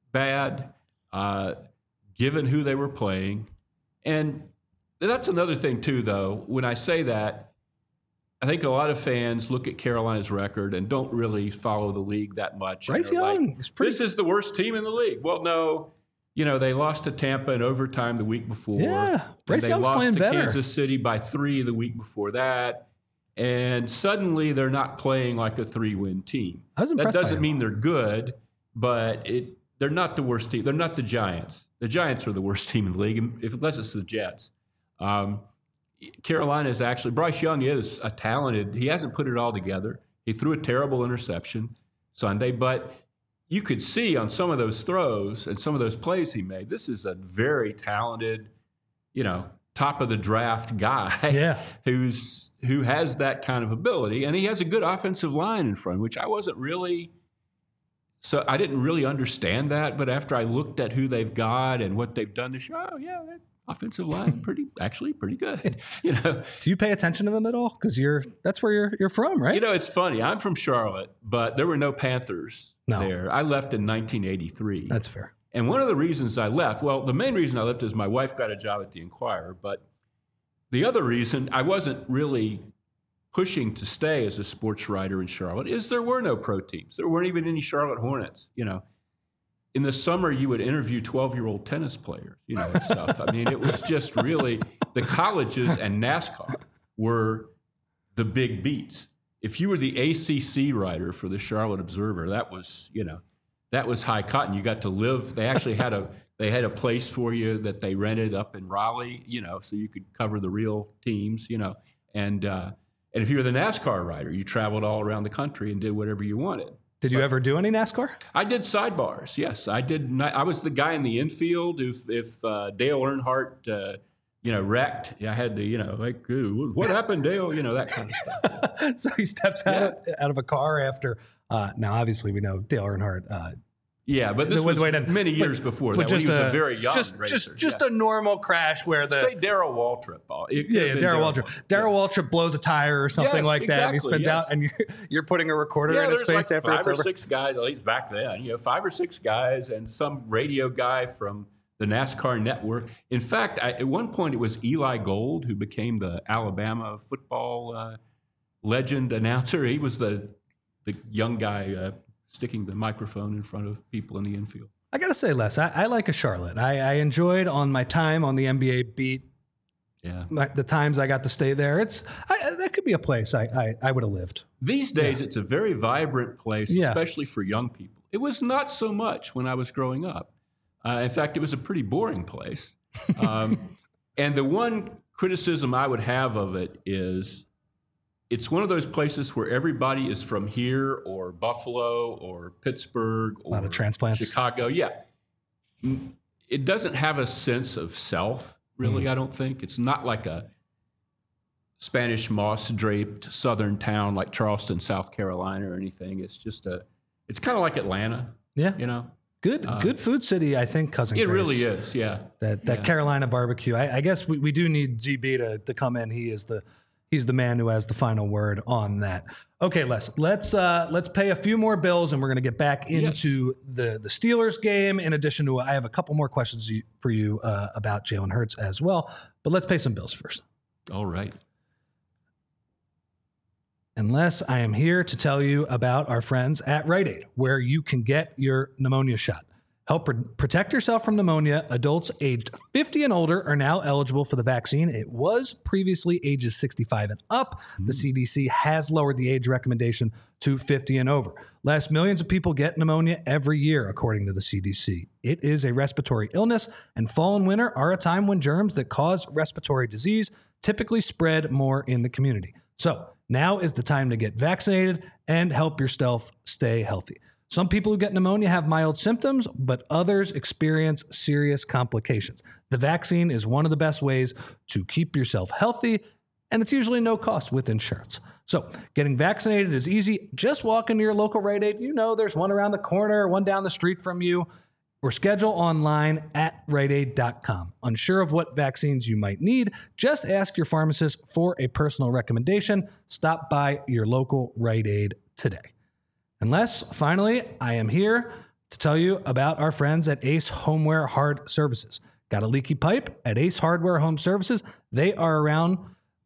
bad, uh, given who they were playing, and that's another thing too. Though when I say that, I think a lot of fans look at Carolina's record and don't really follow the league that much. Bryce Young like, is pretty. This is the worst team in the league. Well, no, you know they lost to Tampa in overtime the week before. Yeah, Bryce they Young's lost playing to better. Kansas City by three the week before that, and suddenly they're not playing like a three-win team. I was that impressed by doesn't him. mean they're good, but it they're not the worst team. They're not the Giants. The Giants are the worst team in the league, if unless it's the Jets. Um, Carolina is actually, Bryce Young is a talented, he hasn't put it all together. He threw a terrible interception Sunday, but you could see on some of those throws and some of those plays he made, this is a very talented, you know, top of the draft guy Yeah. who's who has that kind of ability. And he has a good offensive line in front, which I wasn't really, so I didn't really understand that. But after I looked at who they've got and what they've done this year, oh, yeah, that offensive line pretty actually pretty good. You know, Do you pay attention to them at all? Because you're that's where you're you're from, right? you know, it's funny. I'm from Charlotte, but there were no Panthers No. there. I left in nineteen eighty-three. That's fair. And one of the reasons I left, well, the main reason I left is my wife got a job at the Enquirer. But the other reason I wasn't really pushing to stay as a sports writer in Charlotte is there were no pro teams. There weren't even any Charlotte Hornets, you know. In the summer, you would interview twelve-year-old tennis players, you know, and stuff. I mean, it was just really the colleges and NASCAR were the big beats. If you were the A C C writer for the Charlotte Observer, that was, you know, that was high cotton. You got to live. They actually had a they had a place for you that they rented up in Raleigh, you know, so you could cover the real teams, you know. And uh, and if you were the NASCAR writer, you traveled all around the country and did whatever you wanted. Did you ever do any NASCAR? I did sidebars. Yes, I did. Not, I was the guy in the infield. If if uh, Dale Earnhardt, uh, you know, wrecked, I had to, you know, like, what happened, Dale? You know, that kind of stuff. So he steps out, Yeah. of, out of a car after. Uh, now, obviously, we know Dale Earnhardt. Uh, Yeah, but this The- was wait, wait, many but- years before but that. When just he was a, a- very young just racer. just just yeah. a normal crash where the Say Darrell Waltrip. It could yeah, have yeah been Darrell Waltrip. Darrell Yeah. Waltrip blows a tire or something Yes, like that. And he exactly, spins yes. out, and you're you're putting a recorder Yeah, in his there's face like after five it's or over. six guys, at least back then, you know, five or six guys and some radio guy from the NASCAR network. In fact, I, at one point it was Eli Gold who became the Alabama football uh, legend announcer. He was the the young guy uh, sticking the microphone in front of people in the infield. I gotta say, Les, I, I like a Charlotte. I, I enjoyed on my time on the N B A beat. Yeah. My, the times I got to stay there, it's I, that could be a place I I, I would have lived. These days, it's a very vibrant place, Yeah. especially for young people. It was not so much when I was growing up. Uh, in fact, it was a pretty boring place. Um, and the one criticism I would have of it is it's one of those places where everybody is from here or Buffalo or Pittsburgh or lot of transplants. Chicago. Yeah. Mm, It doesn't have a sense of self, really, Mm. I don't think. It's not like a Spanish moss-draped southern town like Charleston, South Carolina or anything. It's just a, it's kind of like Atlanta, Yeah, you know? good Uh, good food city. I think cousin. It Chris. really is, yeah. That that Yeah. Carolina barbecue. I, I guess we, we do need Z B to, to come in. He is the he's the man who has the final word on that. Okay, Les, let's uh, let's pay a few more bills, and we're going to get back into the the Steelers game. In addition to, I have a couple more questions you- for you uh, about Jalen Hurts as well. But let's pay some bills first. All right. Unless I am here to tell you about our friends at Rite Aid, where you can get your pneumonia shot. Help pr- protect yourself from pneumonia. Adults aged fifty and older are now eligible for the vaccine. It was previously ages sixty-five and up. The C D C has lowered the age recommendation to fifty and over. Less millions of people get pneumonia every year, according to the C D C. It is a respiratory illness, and fall and winter are a time when germs that cause respiratory disease typically spread more in the community. So now is the time to get vaccinated and help yourself stay healthy. Some people who get pneumonia have mild symptoms, but others experience serious complications. The vaccine is one of the best ways to keep yourself healthy, and it's usually no cost with insurance. So getting vaccinated is easy. Just walk into your local Rite Aid. You know there's one around the corner, one down the street from you, or schedule online at rite aid dot com. Unsure of what vaccines you might need? Just ask your pharmacist for a personal recommendation. Stop by your local Rite Aid today. Unless, finally, I am here to tell you about our friends at Ace Homeware Hard Services. Got a leaky pipe? At Ace Hardware Home Services, they are around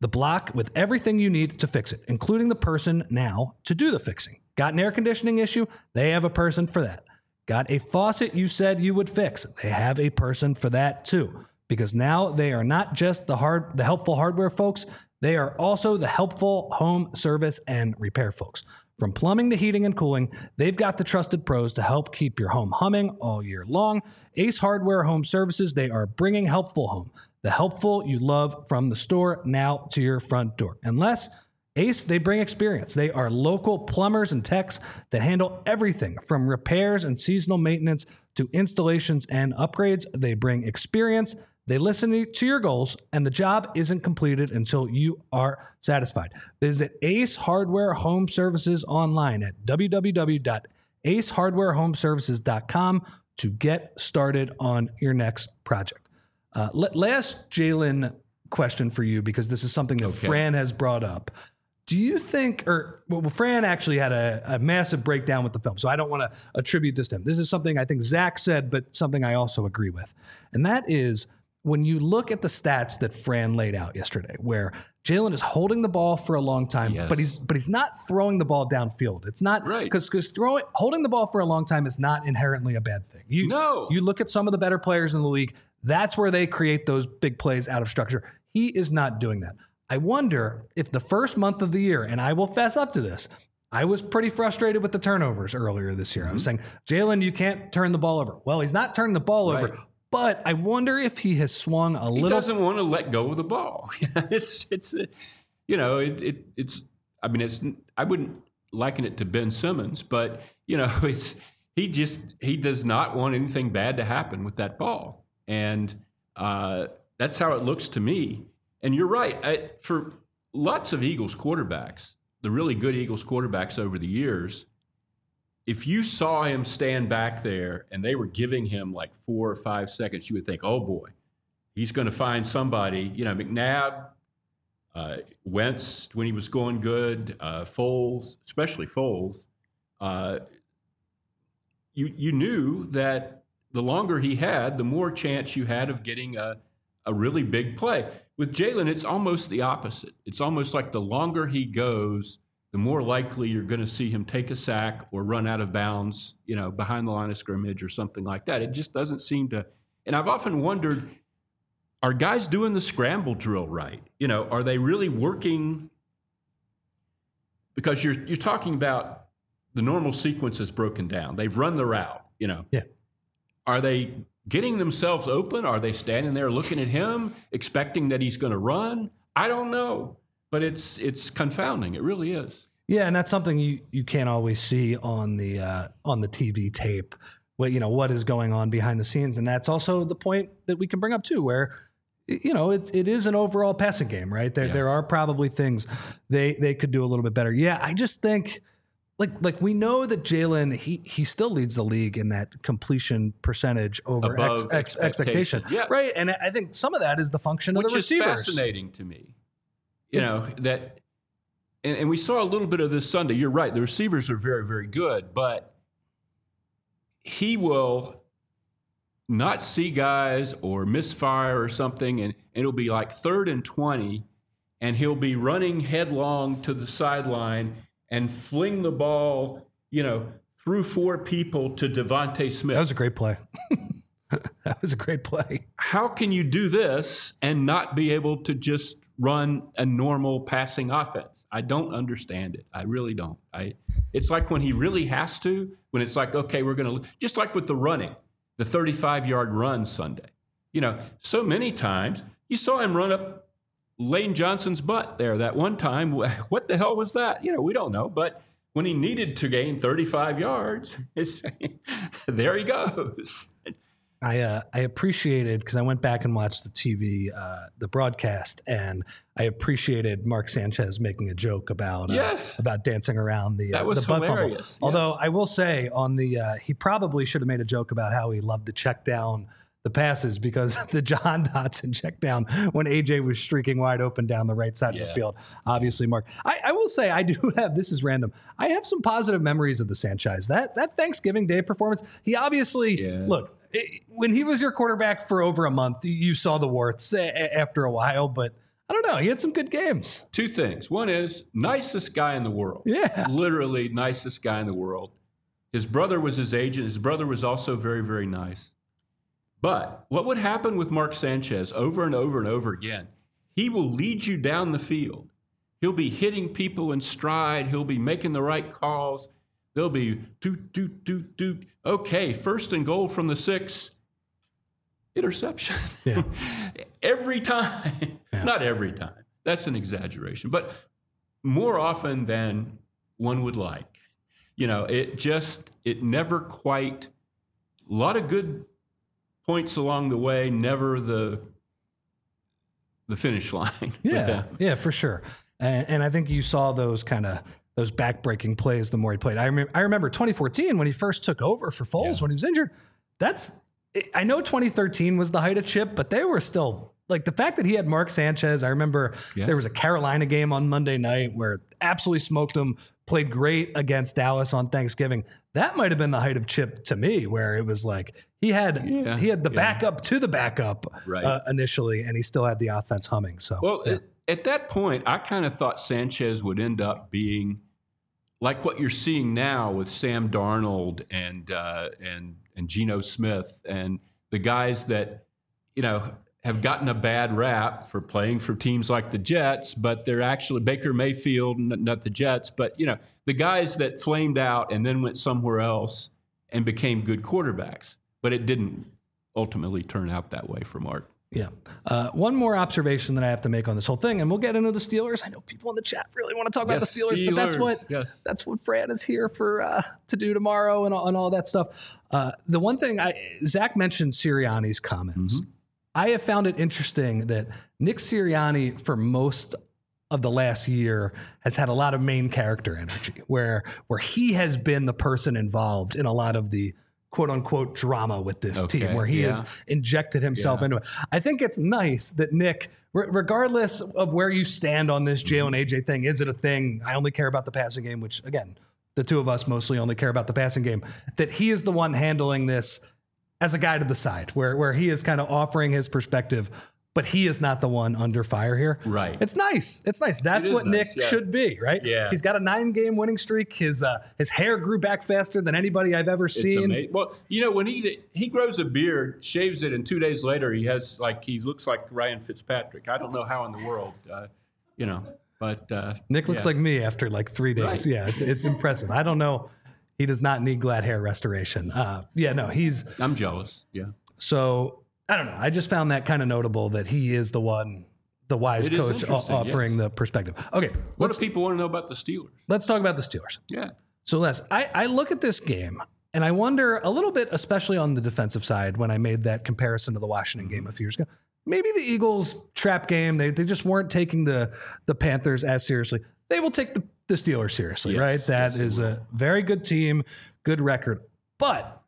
the block with everything you need to fix it, including the person now to do the fixing. Got an air conditioning issue? They have a person for that. Got a faucet you said you would fix? They have a person for that too. Because now they are not just the hard, the helpful hardware folks, they are also the helpful home service and repair folks. From plumbing to heating and cooling, they've got the trusted pros to help keep your home humming all year long. Ace Hardware Home Services, they are bringing helpful home. The helpful you love from the store now to your front door. Unless Ace, they bring experience. They are local plumbers and techs that handle everything from repairs and seasonal maintenance to installations and upgrades. They bring experience. They listen to your goals, and the job isn't completed until you are satisfied. Visit Ace Hardware Home Services online at w w w dot ace hardware home services dot com to get started on your next project. Uh, last Jalen question for you, because this is something that okay. Fran has brought up. Do you think, or well, Fran actually had a, a massive breakdown with the film, so I don't want to attribute this to him. This is something I think Zach said, but something I also agree with. And that is, when you look at the stats that Fran laid out yesterday, where Jalen is holding the ball for a long time, yes. but he's but he's not throwing the ball downfield. It's not right because because throwing holding the ball for a long time is not inherently a bad thing. You no. you look at some of the better players in the league. That's where they create those big plays out of structure. He is not doing that. I wonder if the first month of the year, and I will fess up to this, I was pretty frustrated with the turnovers earlier this year. Mm-hmm. I was saying, Jalen, you can't turn the ball over. Well, he's not turning the ball right. over. But I wonder if he has swung a little. He doesn't want to let go of the ball. it's it's you know it, it it's I mean it's I wouldn't liken it to Ben Simmons, but you know it's he just he does not want anything bad to happen with that ball, and uh, that's how it looks to me. And you're right. I, for lots of Eagles quarterbacks, the really good Eagles quarterbacks over the years, if you saw him stand back there and they were giving him like four or five seconds, you would think, oh, boy, he's going to find somebody. You know, McNabb, uh, Wentz, when he was going good, uh, Foles, especially Foles, uh, you, you knew that the longer he had, the more chance you had of getting a, a really big play. With Jalen, it's almost the opposite. It's almost like the longer he goes, the more likely you're going to see him take a sack or run out of bounds, you know, behind the line of scrimmage or something like that. It just doesn't seem to. And I've often wondered, are guys doing the scramble drill right? You know, are they really working? Because you're you're talking about the normal sequence is broken down. They've run the route, you know. Yeah. Are they getting themselves open? Are they standing there looking at him, expecting that he's going to run? I don't know. But it's it's confounding. It really is. Yeah, and that's something you, you can't always see on the uh, on the T V tape. What you know what is going on behind the scenes, and that's also the point that we can bring up too, where you know it it is an overall passing game, right? There yeah. there are probably things they they could do a little bit better. Yeah, I just think like like we know that Jalen he he still leads the league in that completion percentage over ex, ex, expectation, yes. right? And I think some of that is the function Which of the receivers. Which is fascinating to me. You know, that, and, and we saw a little bit of this Sunday. You're right. The receivers are very, very good, but he will not see guys or misfire or something, and, and it'll be like third and twenty, and he'll be running headlong to the sideline and fling the ball, you know, through four people to Devontae Smith. That was a great play. That was a great play. How can you do this and not be able to just run a normal passing offense? I don't understand it. I really don't. I. It's like when he really has to, when it's like, okay, we're going to, just like with the running, the thirty-five-yard run Sunday. You know, so many times you saw him run up Lane Johnson's butt there that one time. What the hell was that? You know, we don't know. But when he needed to gain thirty-five yards, it's, there he goes. I uh, I appreciated, because I went back and watched the T V, uh, the broadcast, and I appreciated Mark Sanchez making a joke about uh, yes. about dancing around the, uh, that was the butt fumble. Yes. Although I will say on the uh, he probably should have made a joke about how he loved to check down the passes, because the John Dotson check down when A J was streaking wide open down the right side yeah. of the field. Obviously, Mark. I, I will say I do have, this is random, I have some positive memories of the Sanchez. That that Thanksgiving Day performance, he obviously, yeah. look, it, when he was your quarterback for over a month, you saw the warts a, after a while, but I don't know. He had some good games. Two things. One is nicest guy in the world. Yeah. Literally nicest guy in the world. His brother was his agent. His brother was also very, very nice. But what would happen with Mark Sanchez over and over and over again? He will lead you down the field. He'll be hitting people in stride. He'll be making the right calls. They'll be doot, doot, doot, doot. Okay, first and goal from the six. Interception. Yeah. Every time. Yeah. Not every time. That's an exaggeration. But more often than one would like. You know, it just, it never quite, a lot of good points along the way, never the the finish line. Yeah, yeah, for sure. And, and I think you saw those kind of, those back-breaking plays the more he played. I, rem- I remember twenty fourteen when he first took over for Foles yeah. when he was injured. That's, I know twenty thirteen was the height of Chip, but they were still, like the fact that he had Mark Sanchez, I remember yeah. there was a Carolina game on Monday night where absolutely smoked him, played great against Dallas on Thanksgiving. That might have been the height of Chip to me, where it was like he had yeah, he had the yeah. backup to the backup right. uh, initially, and he still had the offense humming. So, well, yeah. at, at that point, I kind of thought Sanchez would end up being like what you're seeing now with Sam Darnold and uh, and and Geno Smith and the guys that you know have gotten a bad rap for playing for teams like the Jets, but they're actually Baker Mayfield, not the Jets, but you know the guys that flamed out and then went somewhere else and became good quarterbacks. But it didn't ultimately turn out that way for Mark. Yeah. Uh, one more observation that I have to make on this whole thing, and we'll get into the Steelers. I know people in the chat really want to talk yes, about the Steelers, Steelers, but that's what yes. that's what Fran is here for uh, to do tomorrow and all, and all that stuff. Uh, the one thing I Zach mentioned Sirianni's comments. Mm-hmm. I have found it interesting that Nick Sirianni, for most of the last year, has had a lot of main character energy, where where he has been the person involved in a lot of the quote unquote drama with this okay, team, where he yeah. has injected himself yeah. into it. I think it's nice that Nick, r- regardless of where you stand on this Jalen A J thing, is it a thing? I only care about the passing game, which again, the two of us mostly only care about the passing game, that he is the one handling this as a guy to the side, where where he is kind of offering his perspective, but he is not the one under fire here. Right. It's nice. It's nice. That's it what nice, Nick yeah. should be, right? Yeah. He's got a nine-game winning streak. His uh, his hair grew back faster than anybody I've ever It's seen. amazing. Well, you know, when he he grows a beard, shaves it, and two days later he has like he looks like Ryan Fitzpatrick. I don't know how in the world, uh, you know, but uh, Nick looks yeah. like me after like three days. Right. Yeah, it's it's impressive. I don't know. He does not need glad hair restoration. Uh, yeah, no, he's. I'm jealous. Yeah. So I don't know. I just found that kind of notable that he is the one, the wise It is coach o- interesting, offering yes. the perspective. Okay, What let's do people want to know about the Steelers? let's talk about the Steelers. Yeah. So Les, I, I look at this game and I wonder a little bit, especially on the defensive side, when I made that comparison to the Washington game a few years ago. Maybe the Eagles trap game, they they just weren't taking the the Panthers as seriously. They will take the, the Steelers seriously, Yes, right? That yes, is they will. a very good team, good record. But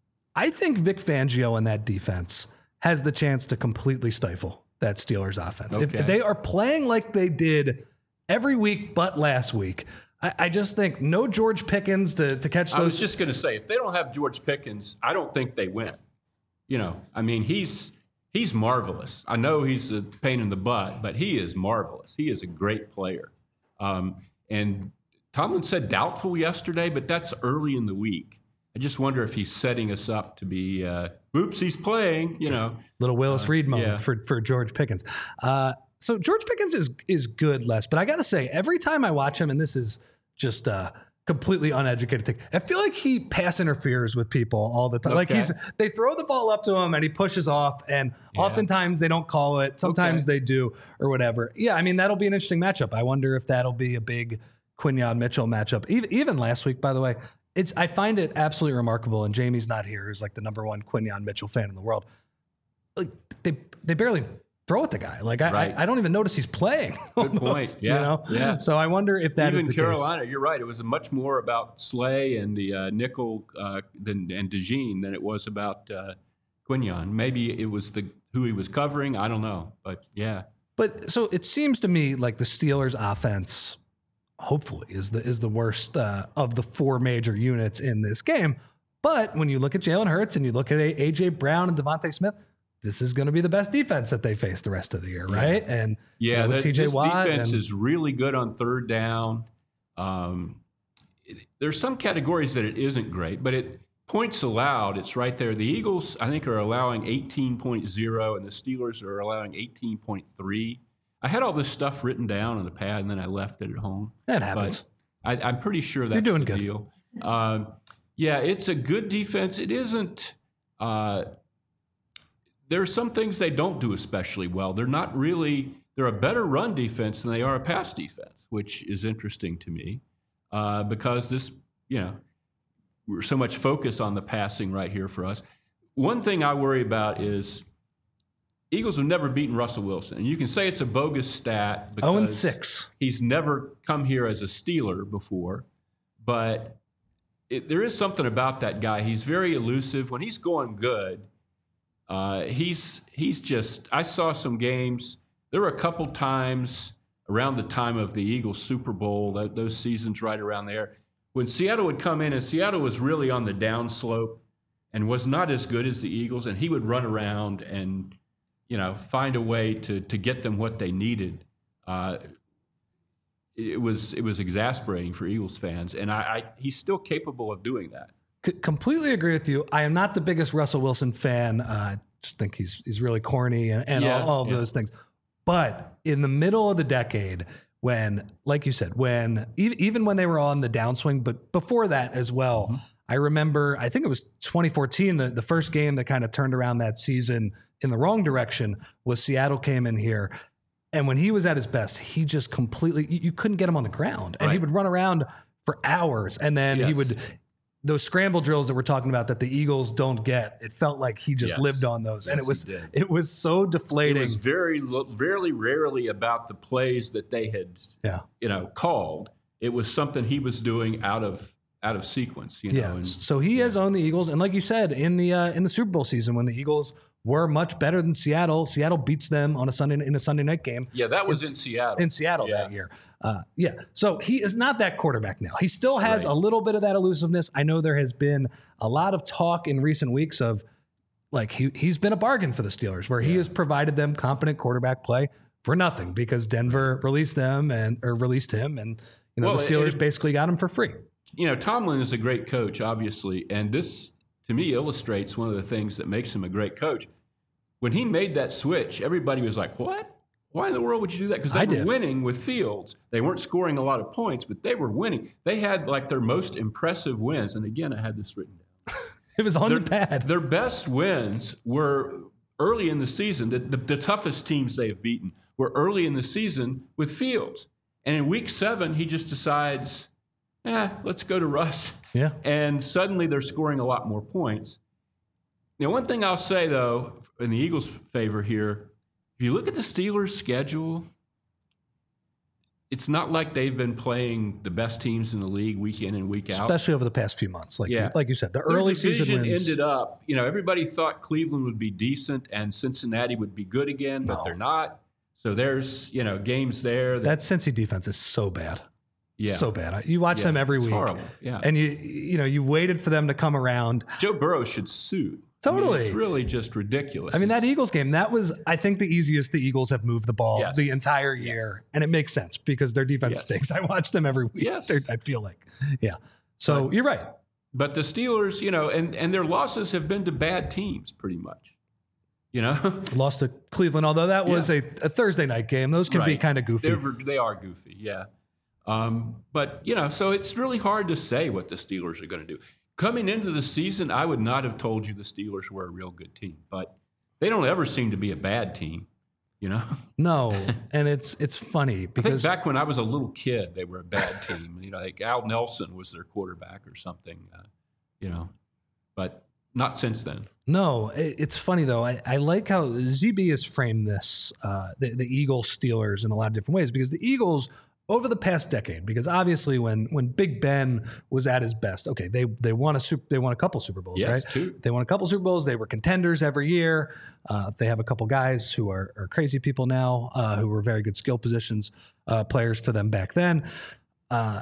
I think Vic Fangio and that defense has the chance to completely stifle that Steelers offense. If, Okay. if they are playing like they did every week but last week, I, I just think no George Pickens to, to catch those. I was just going to say, if they don't have George Pickens, I don't think they win. You know, I mean, he's he's marvelous. I know he's a pain in the butt, but he is marvelous. He is a great player. Um, and Tomlin said doubtful yesterday, but that's early in the week. I just wonder if he's setting us up to be, uh, oops, he's playing, you know. Little Willis Reed moment yeah. for, for George Pickens. Uh, so George Pickens is is good, Les, but I got to say, every time I watch him, and this is just a completely uneducated thing, I feel like he pass interferes with people all the time. Okay. Like he's they throw the ball up to him and he pushes off, and Yeah. oftentimes they don't call it. Sometimes Okay. they do or whatever. Yeah, I mean, that'll be an interesting matchup. I wonder if that'll be a big Quinyon Mitchell matchup. Even, even last week, by the way, It's. I find it absolutely remarkable, and Jamie's not here, who's like the number one Quinyon Mitchell fan in the world. Like they they barely throw at the guy. Like I Right. I, I don't even notice he's playing. Good almost, point. Yeah, You know? yeah. So I wonder if that is Even the Carolina, you're right. It was much more about Slay and the uh, nickel uh, than, and DeJean than it was about uh, Quinyon. Maybe it was the who he was covering. I don't know, but yeah. But so it seems to me like the Steelers' offense, hopefully, is the is the worst uh, of the four major units in this game. But when you look at Jalen Hurts and you look at A J Brown and Devontae Smith, this is going to be the best defense that they face the rest of the year, right? Yeah. And yeah, you know, that, T J this Watt defense and, is really good on third down. Um, it, there's some categories that it isn't great, but it points allowed, it's right there. The Eagles, I think, are allowing eighteen point oh, and the Steelers are allowing eighteen point three. I had all this stuff written down on the pad, and then I left it at home. That happens. But I, I'm pretty sure that's You're doing the good. deal. Um, yeah, it's a good defense. It isn't. Uh, there are some things they don't do especially well. They're not really. They're a better run defense than they are a pass defense, which is interesting to me uh, because this, you know, we're so much focus on the passing right here for us. One thing I worry about is Eagles have never beaten Russell Wilson. And you can say it's a bogus stat because oh and six. He's never come here as a Steeler before. But it, there is something about that guy. He's very elusive. When he's going good, uh, he's he's just – I saw some games. There were a couple times around the time of the Eagles Super Bowl, that, those seasons right around there, when Seattle would come in, and Seattle was really on the downslope and was not as good as the Eagles, and he would run around and – you know, find a way to to get them what they needed. Uh, it was it was exasperating for Eagles fans, and I, I he's still capable of doing that. C- completely agree with you. I am not the biggest Russell Wilson fan. Uh, I just think he's he's really corny and, and Yeah, all, all of yeah. those things. But in the middle of the decade, when, like you said, when e- even when they were on the downswing, but before that as well, Mm-hmm. I remember, I think it was twenty fourteen, the, the first game that kind of turned around that season in the wrong direction was Seattle came in here. And when he was at his best, he just completely, you, you couldn't get him on the ground. And he Right. would run around for hours. And then he Yes. would, those scramble drills that we're talking about that the Eagles don't get, it felt like he just Yes. lived on those. and Yes, it was, he did. it was so It deflating. was very lo- very rarely about the plays that they had yeah. you know called. It was something he was doing out of out of sequence. You know, Yeah. and So he has owned the Eagles. And like you said, in the, uh, in the Super Bowl season, when the Eagles were much better than Seattle, Seattle beats them on a Sunday, in a Sunday night game. yeah, that was It's- in Seattle. in Seattle Yeah. that year. Uh, yeah. So he is not that quarterback now. He still has Right. a little bit of that elusiveness. I know there has been a lot of talk in recent weeks of like he, he's been a bargain for the Steelers where he has provided them competent quarterback play for nothing because Denver released them and or released him. And, you know, Well, the it- Steelers it- basically got him for free. You know, Tomlin is a great coach, obviously, and this to me illustrates one of the things that makes him a great coach. When he made that switch, everybody was like, "What? Why in the world would you do that?" Because they I were did. winning with Fields. They weren't scoring a lot of points, but they were winning. They had like their most impressive wins. And again, I had this written down. It was on Their, the pad. their best wins were early in the season. The, the, the toughest teams they've beaten were early in the season with Fields. And in week seven, he just decides, eh, let's go to Russ. Yeah. And suddenly they're scoring a lot more points. Now, one thing I'll say, though, in the Eagles' favor here, if you look at the Steelers' schedule, it's not like they've been playing the best teams in the league week in and week out. Especially over the past few months. Like, Yeah. you, like you said, the Their early season division wins. ended up, you know, everybody thought Cleveland would be decent and Cincinnati would be good again, but No. they're not. So there's, you know, games there. That, that Cincy defense is so bad. yeah. So bad. You watch Yeah, them every it's week. horrible. Yeah. And you you know, you waited for them to come around. Joe Burrow should sue. I mean, Totally. it's really just ridiculous. I mean, that It's- Eagles game, that was, I think, the easiest the Eagles have moved the ball Yes. the entire year. And it makes sense because their defense Yes. stinks. I watch them every week. Yes. They're- I feel like. Yeah. So But- you're right. But the Steelers, you know, and, and their losses have been to bad teams pretty much. You know? Lost to Cleveland, although that was Yeah. a, a Thursday night game. Those can be Right. kind of goofy. They're, they are goofy, yeah. Um, but, you know, so it's really hard to say what the Steelers are going to do. Coming into the season, I would not have told you the Steelers were a real good team, but they don't ever seem to be a bad team, you know? No. And it's it's funny I think because back when I was a little kid, they were a bad team. You know, like Al Nelson was their quarterback or something, uh, you know, but not since then. No, it, it's funny though. I, I like how Z B has framed this, uh, the, the Eagles Steelers in a lot of different ways because the Eagles over the past decade, because obviously when when Big Ben was at his best, okay, they they won a super, they won a couple Super Bowls, Yes, right? two. They won a couple Super Bowls. They were contenders every year. Uh, they have a couple guys who are, are crazy people now, uh, who were very good skill positions uh, players for them back then. Uh,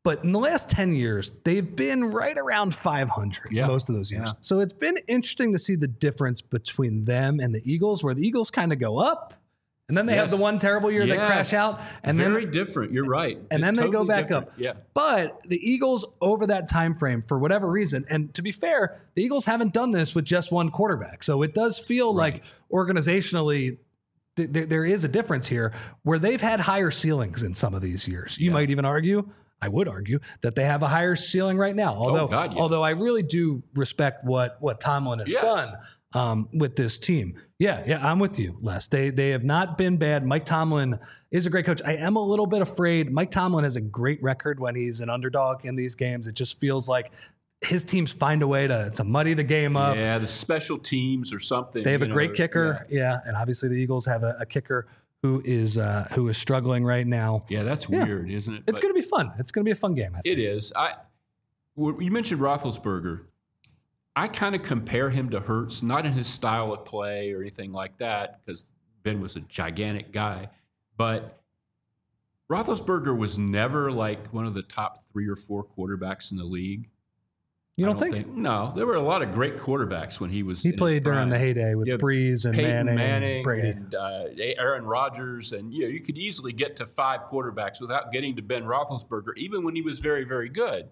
But in the last ten years, they've been right around five hundred Yeah. most of those years. Yeah. So it's been interesting to see the difference between them and the Eagles, where the Eagles kind of go up, and then they Yes. have the one terrible year Yes. they crash out, and Very then different. You're right. and then they go Totally back different. up. Yeah. But the Eagles, over that time frame, for whatever reason, and to be fair, the Eagles haven't done this with just one quarterback. So it does feel Right. like organizationally th- th- there is a difference here where they've had higher ceilings in some of these years. You Yeah. might even argue, I would argue, that they have a higher ceiling right now. Although, God, yeah. although I really do respect what what Tomlin has Yes. done um, with this team. Yeah, yeah, I'm with you, Les. They they have not been bad. Mike Tomlin is a great coach. I am a little bit afraid. Mike Tomlin has a great record when he's an underdog in these games. It just feels like his teams find a way to, to muddy the game up. Yeah, the special teams or something. They have a you great know, kicker. Yeah. yeah. And obviously the Eagles have a, a kicker who is uh, who is struggling right now. Yeah, that's Yeah. weird, isn't it? It's But going to be fun. It's going to be a fun game. I think. It is. I. w- You mentioned Roethlisberger. I kind of compare him to Hurts, not in his style of play or anything like that, because Ben was a gigantic guy. But Roethlisberger was never like one of the top three or four quarterbacks in the league. You I don't, think? No, there were a lot of great quarterbacks when he was. He in his played during prime. the heyday with Yeah, Breeze and Peyton Manning, Manning, and Brady. and uh, Aaron Rodgers, and you know you could easily get to five quarterbacks without getting to Ben Roethlisberger, even when he was very, very good.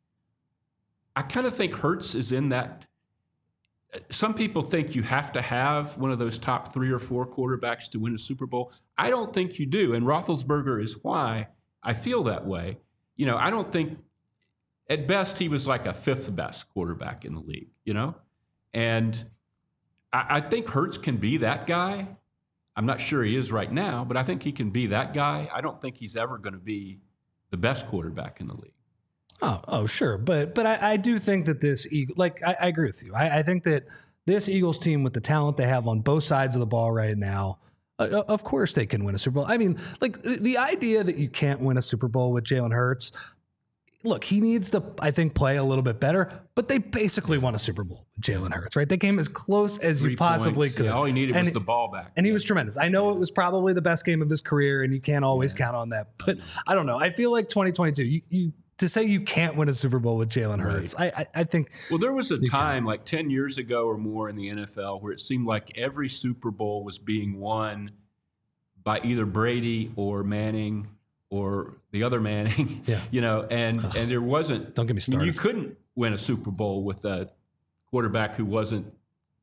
I kind of think Hurts is in that. Some people think you have to have one of those top three or four quarterbacks to win a Super Bowl. I don't think you do, and Roethlisberger is why I feel that way. You know, I don't think. At best, he was like a fifth best quarterback in the league, you know? And I, I think Hurts can be that guy. I'm not sure he is right now, but I think he can be that guy. I don't think he's ever going to be the best quarterback in the league. Oh, oh, sure, but but I, I do think that this Eagle, like I, I agree with you. I, I think that this Eagles team, with the talent they have on both sides of the ball right now, uh, of course they can win a Super Bowl. I mean, like the, the idea that you can't win a Super Bowl with Jalen Hurts. Look, he needs to, I think, play a little bit better, but they basically won a Super Bowl with Jalen Hurts, right? They came as close as Three you possibly points. could. Yeah, all he needed and, was the ball back. And he Yeah. was tremendous. I know it was probably the best game of his career, and you can't always count on that. But I don't know. I feel like twenty twenty-two, you, you to say you can't win a Super Bowl with Jalen Hurts, I, I, I think. Well, there was a You time can. like ten years ago or more in the N F L where it seemed like every Super Bowl was being won by either Brady or Manning or the other Manning, Yeah. you know, and and there wasn't. Don't get me I mean, you started. couldn't win a Super Bowl with a quarterback who wasn't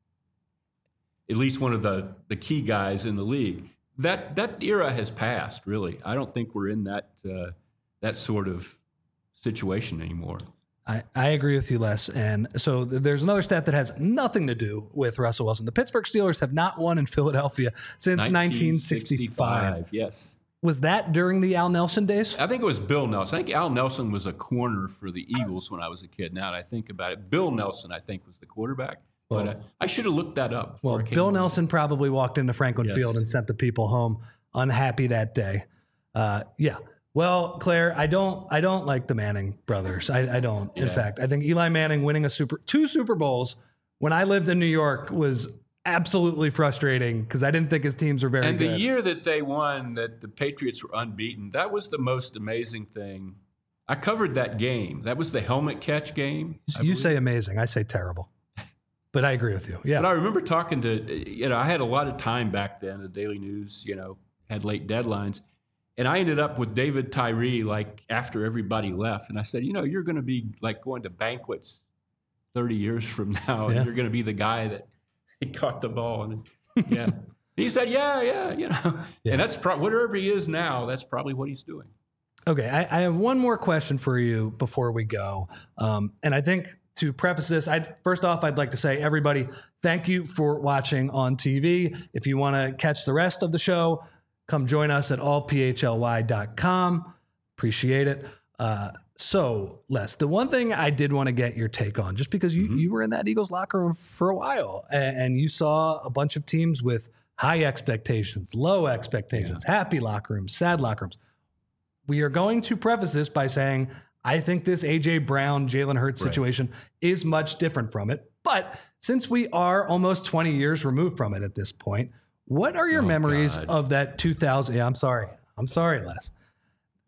at least one of the the key guys in the league. That that era has passed. Really, I don't think we're in that uh, that sort of situation anymore. I, I agree with you, Les. And so th- there's another stat that has nothing to do with Russell Wilson. The Pittsburgh Steelers have not won in Philadelphia since nineteen sixty-five. Yes. Was that during the Al Nelson days? I think it was Bill Nelson. I think Al Nelson was a corner for the Eagles when I was a kid. Now that I think about it, Bill Nelson, I think, was the quarterback. But Well- uh, I should have looked that up. before Well, I came Bill on. Nelson probably walked into Franklin Yes. Field and sent the people home unhappy that day. Uh, yeah. Well, Claire, I don't, I don't like the Manning brothers. I, I don't. In Yeah. fact, I think Eli Manning winning a super, two Super Bowls when I lived in New York was absolutely frustrating because I didn't think his teams were very And good. the year that they won, that the Patriots were unbeaten, that was the most amazing thing. I covered that game. That was the helmet catch game. I you believe. say amazing. I say terrible. But I agree with you. Yeah. But I remember talking to, you know, I had a lot of time back then. The Daily News, you know, had late deadlines. And I ended up with David Tyree, like, after everybody left. And I said, you know, you're going to be, like, going to banquets thirty years from now. Yeah. And you're going to be the guy that he caught the ball. And, yeah. And he said, yeah, yeah, you know. Yeah. And that's pro- whatever he is now, that's probably what he's doing. Okay, I, I have one more question for you before we go. Um, and I think to preface this, I'd, first off, I'd like to say, everybody, thank you for watching on T V. If you want to catch the rest of the show, come join us at all p h l y dot com. Appreciate it. Uh, so, Les, the one thing I did want to get your take on, just because you, Mhm. you were in that Eagles locker room for a while and, and you saw a bunch of teams with high expectations, low expectations, happy locker rooms, sad locker rooms. We are going to preface this by saying, I think this A J Brown, Jalen Hurts Right. situation is much different from it. But since we are almost twenty years removed from it at this point, what are your Oh, memories God. of that two thousand? Yeah, I'm sorry. I'm sorry, Les.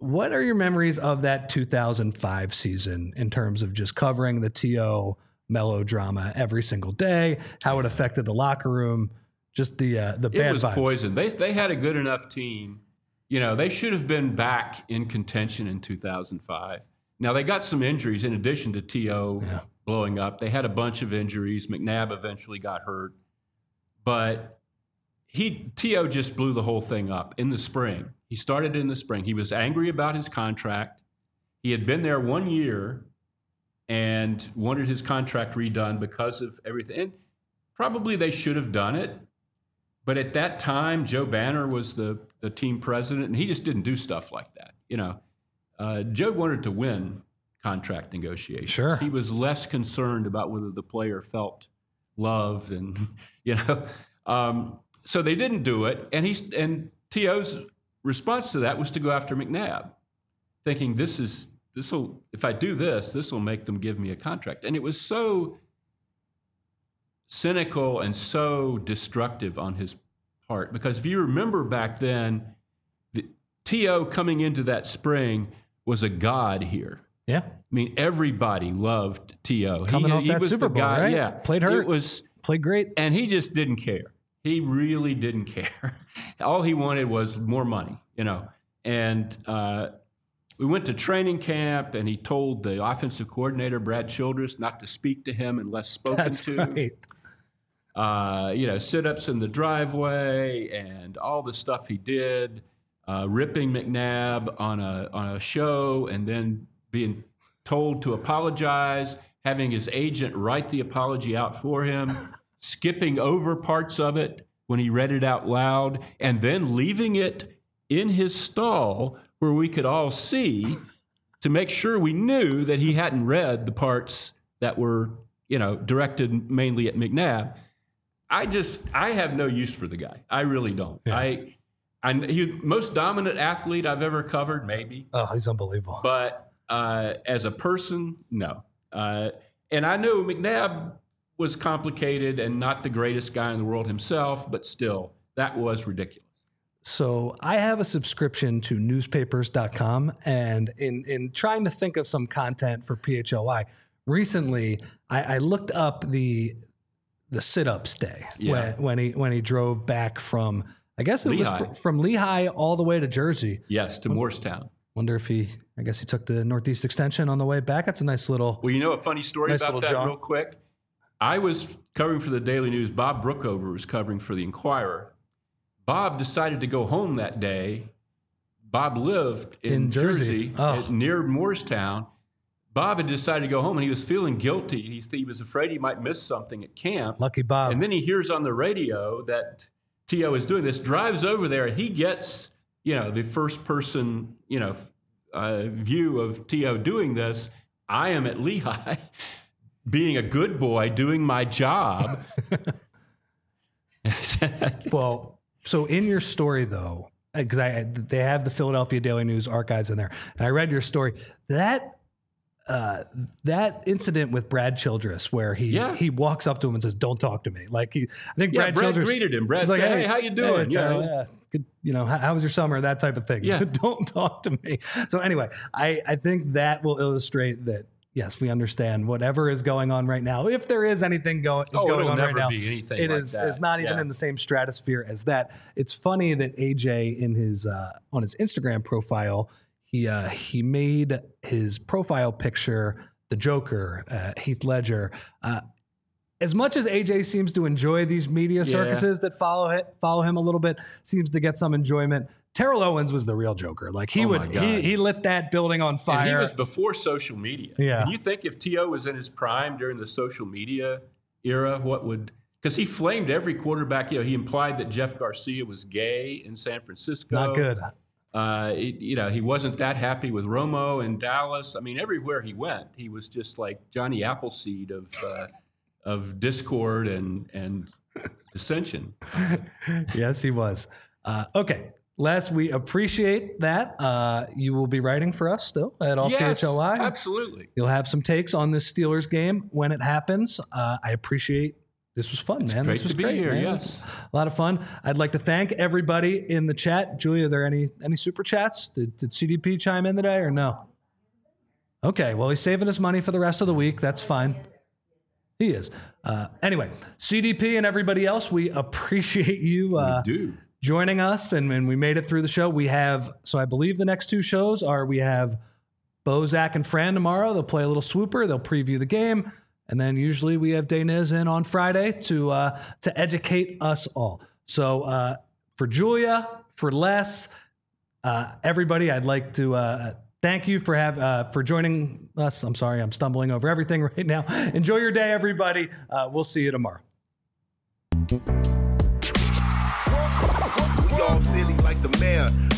what are your memories of that two thousand five season in terms of just covering the T O melodrama every single day, how it affected the locker room, just the uh, the bad It was vibes? poison. They they had a good enough team. You know, they should have been back in contention in two thousand five. Now, they got some injuries in addition to T O Yeah. blowing up. They had a bunch of injuries. McNabb eventually got hurt. But he T O just blew the whole thing up in the spring. He started in the spring. He was angry about his contract. He had been there one year and wanted his contract redone because of everything. And probably they should have done it. But at that time, Joe Banner was the, the team president, and he just didn't do stuff like that. You know, uh, Joe wanted to win contract negotiations. Sure. He was less concerned about whether the player felt loved, and you know, um, so they didn't do it. And he's and T O's response to that was to go after McNabb, thinking this is this will if I do this, this will make them give me a contract. And it was so cynical and so destructive on his part, because if you remember back then, the T O coming into that spring was a god here. Yeah. I mean, everybody loved T O. Coming he, off he that was Super the Bowl, guy, right? Yeah, Played hurt. It was, Played great. and he just didn't care. He really didn't care. All he wanted was more money, you know. And uh, we went to training camp, and he told the offensive coordinator, Brad Childress, not to speak to him unless spoken That's to. right. Uh, you know, sit-ups in the driveway and all the stuff he did, uh, ripping McNabb on a on a show, and then being told to apologize, having his agent write the apology out for him, skipping over parts of it when he read it out loud, and then leaving it in his stall where we could all see to make sure we knew that he hadn't read the parts that were, you know, directed mainly at McNabb. I just, I have no use for the guy. I really don't. Yeah. I, I, he most dominant athlete I've ever covered, maybe. Oh, he's unbelievable. But uh, as a person, no. Uh, and I know McNabb was complicated and not the greatest guy in the world himself, but still, that was ridiculous. So I have a subscription to newspapers dot com, and in, in trying to think of some content for P H L Y, recently I, I looked up the the sit-ups day Yeah. when, when he when he drove back from, I guess it Lehigh. was fr- from Lehigh all the way to Jersey. Yes, to Morristown. Wonder if he, I guess he took the Northeast Extension on the way back. That's a nice little. Well, you know a funny story Nice about little that jaunt. real quick? I was covering for the Daily News. Bob Brookover was covering for the Inquirer. Bob decided to go home that day. Bob lived in, In Jersey. Jersey, Oh. at- near Morristown. Bob had decided to go home, and he was feeling guilty. He, he was afraid he might miss something at camp. Lucky Bob. And then he hears on the radio that T O is doing this, drives over there, and he gets, you know, the first person, you know, uh, view of T O doing this. I am at Lehigh, being a good boy, doing my job. Well, so in your story though, because I they have the Philadelphia Daily News archives in there, and I read your story. That uh, that incident with Brad Childress, where he Yeah. he walks up to him and says, "Don't talk to me." Like he, I think Yeah, Brad, Brad Childress greeted him. Brad was said, "Hey, how you doing?" Hey, Yeah. Terrell, yeah. Good, you know, how, how was your summer? That type of thing. Yeah. Don't talk to me. So anyway, I I think that will illustrate that. Yes, we understand whatever is going on right now. If there is anything go, is Oh, going it'll on never right now, be anything it like is that. it's not even Yeah. in the same stratosphere as that. It's funny that A J in his uh, on his Instagram profile, he uh, he made his profile picture the Joker, uh, Heath Ledger. Uh, as much as A J seems to enjoy these media circuses that follow it, follow him a little bit, seems to get some enjoyment. Terrell Owens was the real Joker. Like he Oh my would, God. he he lit that building on fire. And he was before social media. Yeah. Can you think if T O was in his prime during the social media era, what would, because he flamed every quarterback. You know, he implied that Jeff Garcia was gay in San Francisco. Not good. Uh, it- you know, he wasn't that happy with Romo in Dallas. I mean, everywhere he went, he was just like Johnny Appleseed of uh, of discord and and dissension. Yes, he was. Uh, okay. Les, we appreciate that. Uh, you will be writing for us still at all P H L Y. Absolutely. You'll have some takes on this Steelers game when it happens. Uh, I appreciate This was fun, it's man. Great this was to be great, here. man. Yes, a lot of fun. I'd like to thank everybody in the chat. Julia, are there any any super chats? Did, did C D P chime in today or no? Okay, well, he's saving his money for the rest of the week. That's fine. He is. Uh, anyway, C D P and everybody else, we appreciate you uh, we do. joining us, and, and we made it through the show. We have, so I believe the next two shows are we have Bo, Zach, and Fran tomorrow. They'll play a little swooper. They'll preview the game. And then usually we have Daynez in on Friday to uh, to educate us all. So uh, for Julia, for Les, uh, everybody, I'd like to uh, thank you for have uh, for joining us. I'm sorry, I'm stumbling over everything right now. Enjoy your day, everybody. Uh, we'll see you tomorrow. We all silly like the mayor.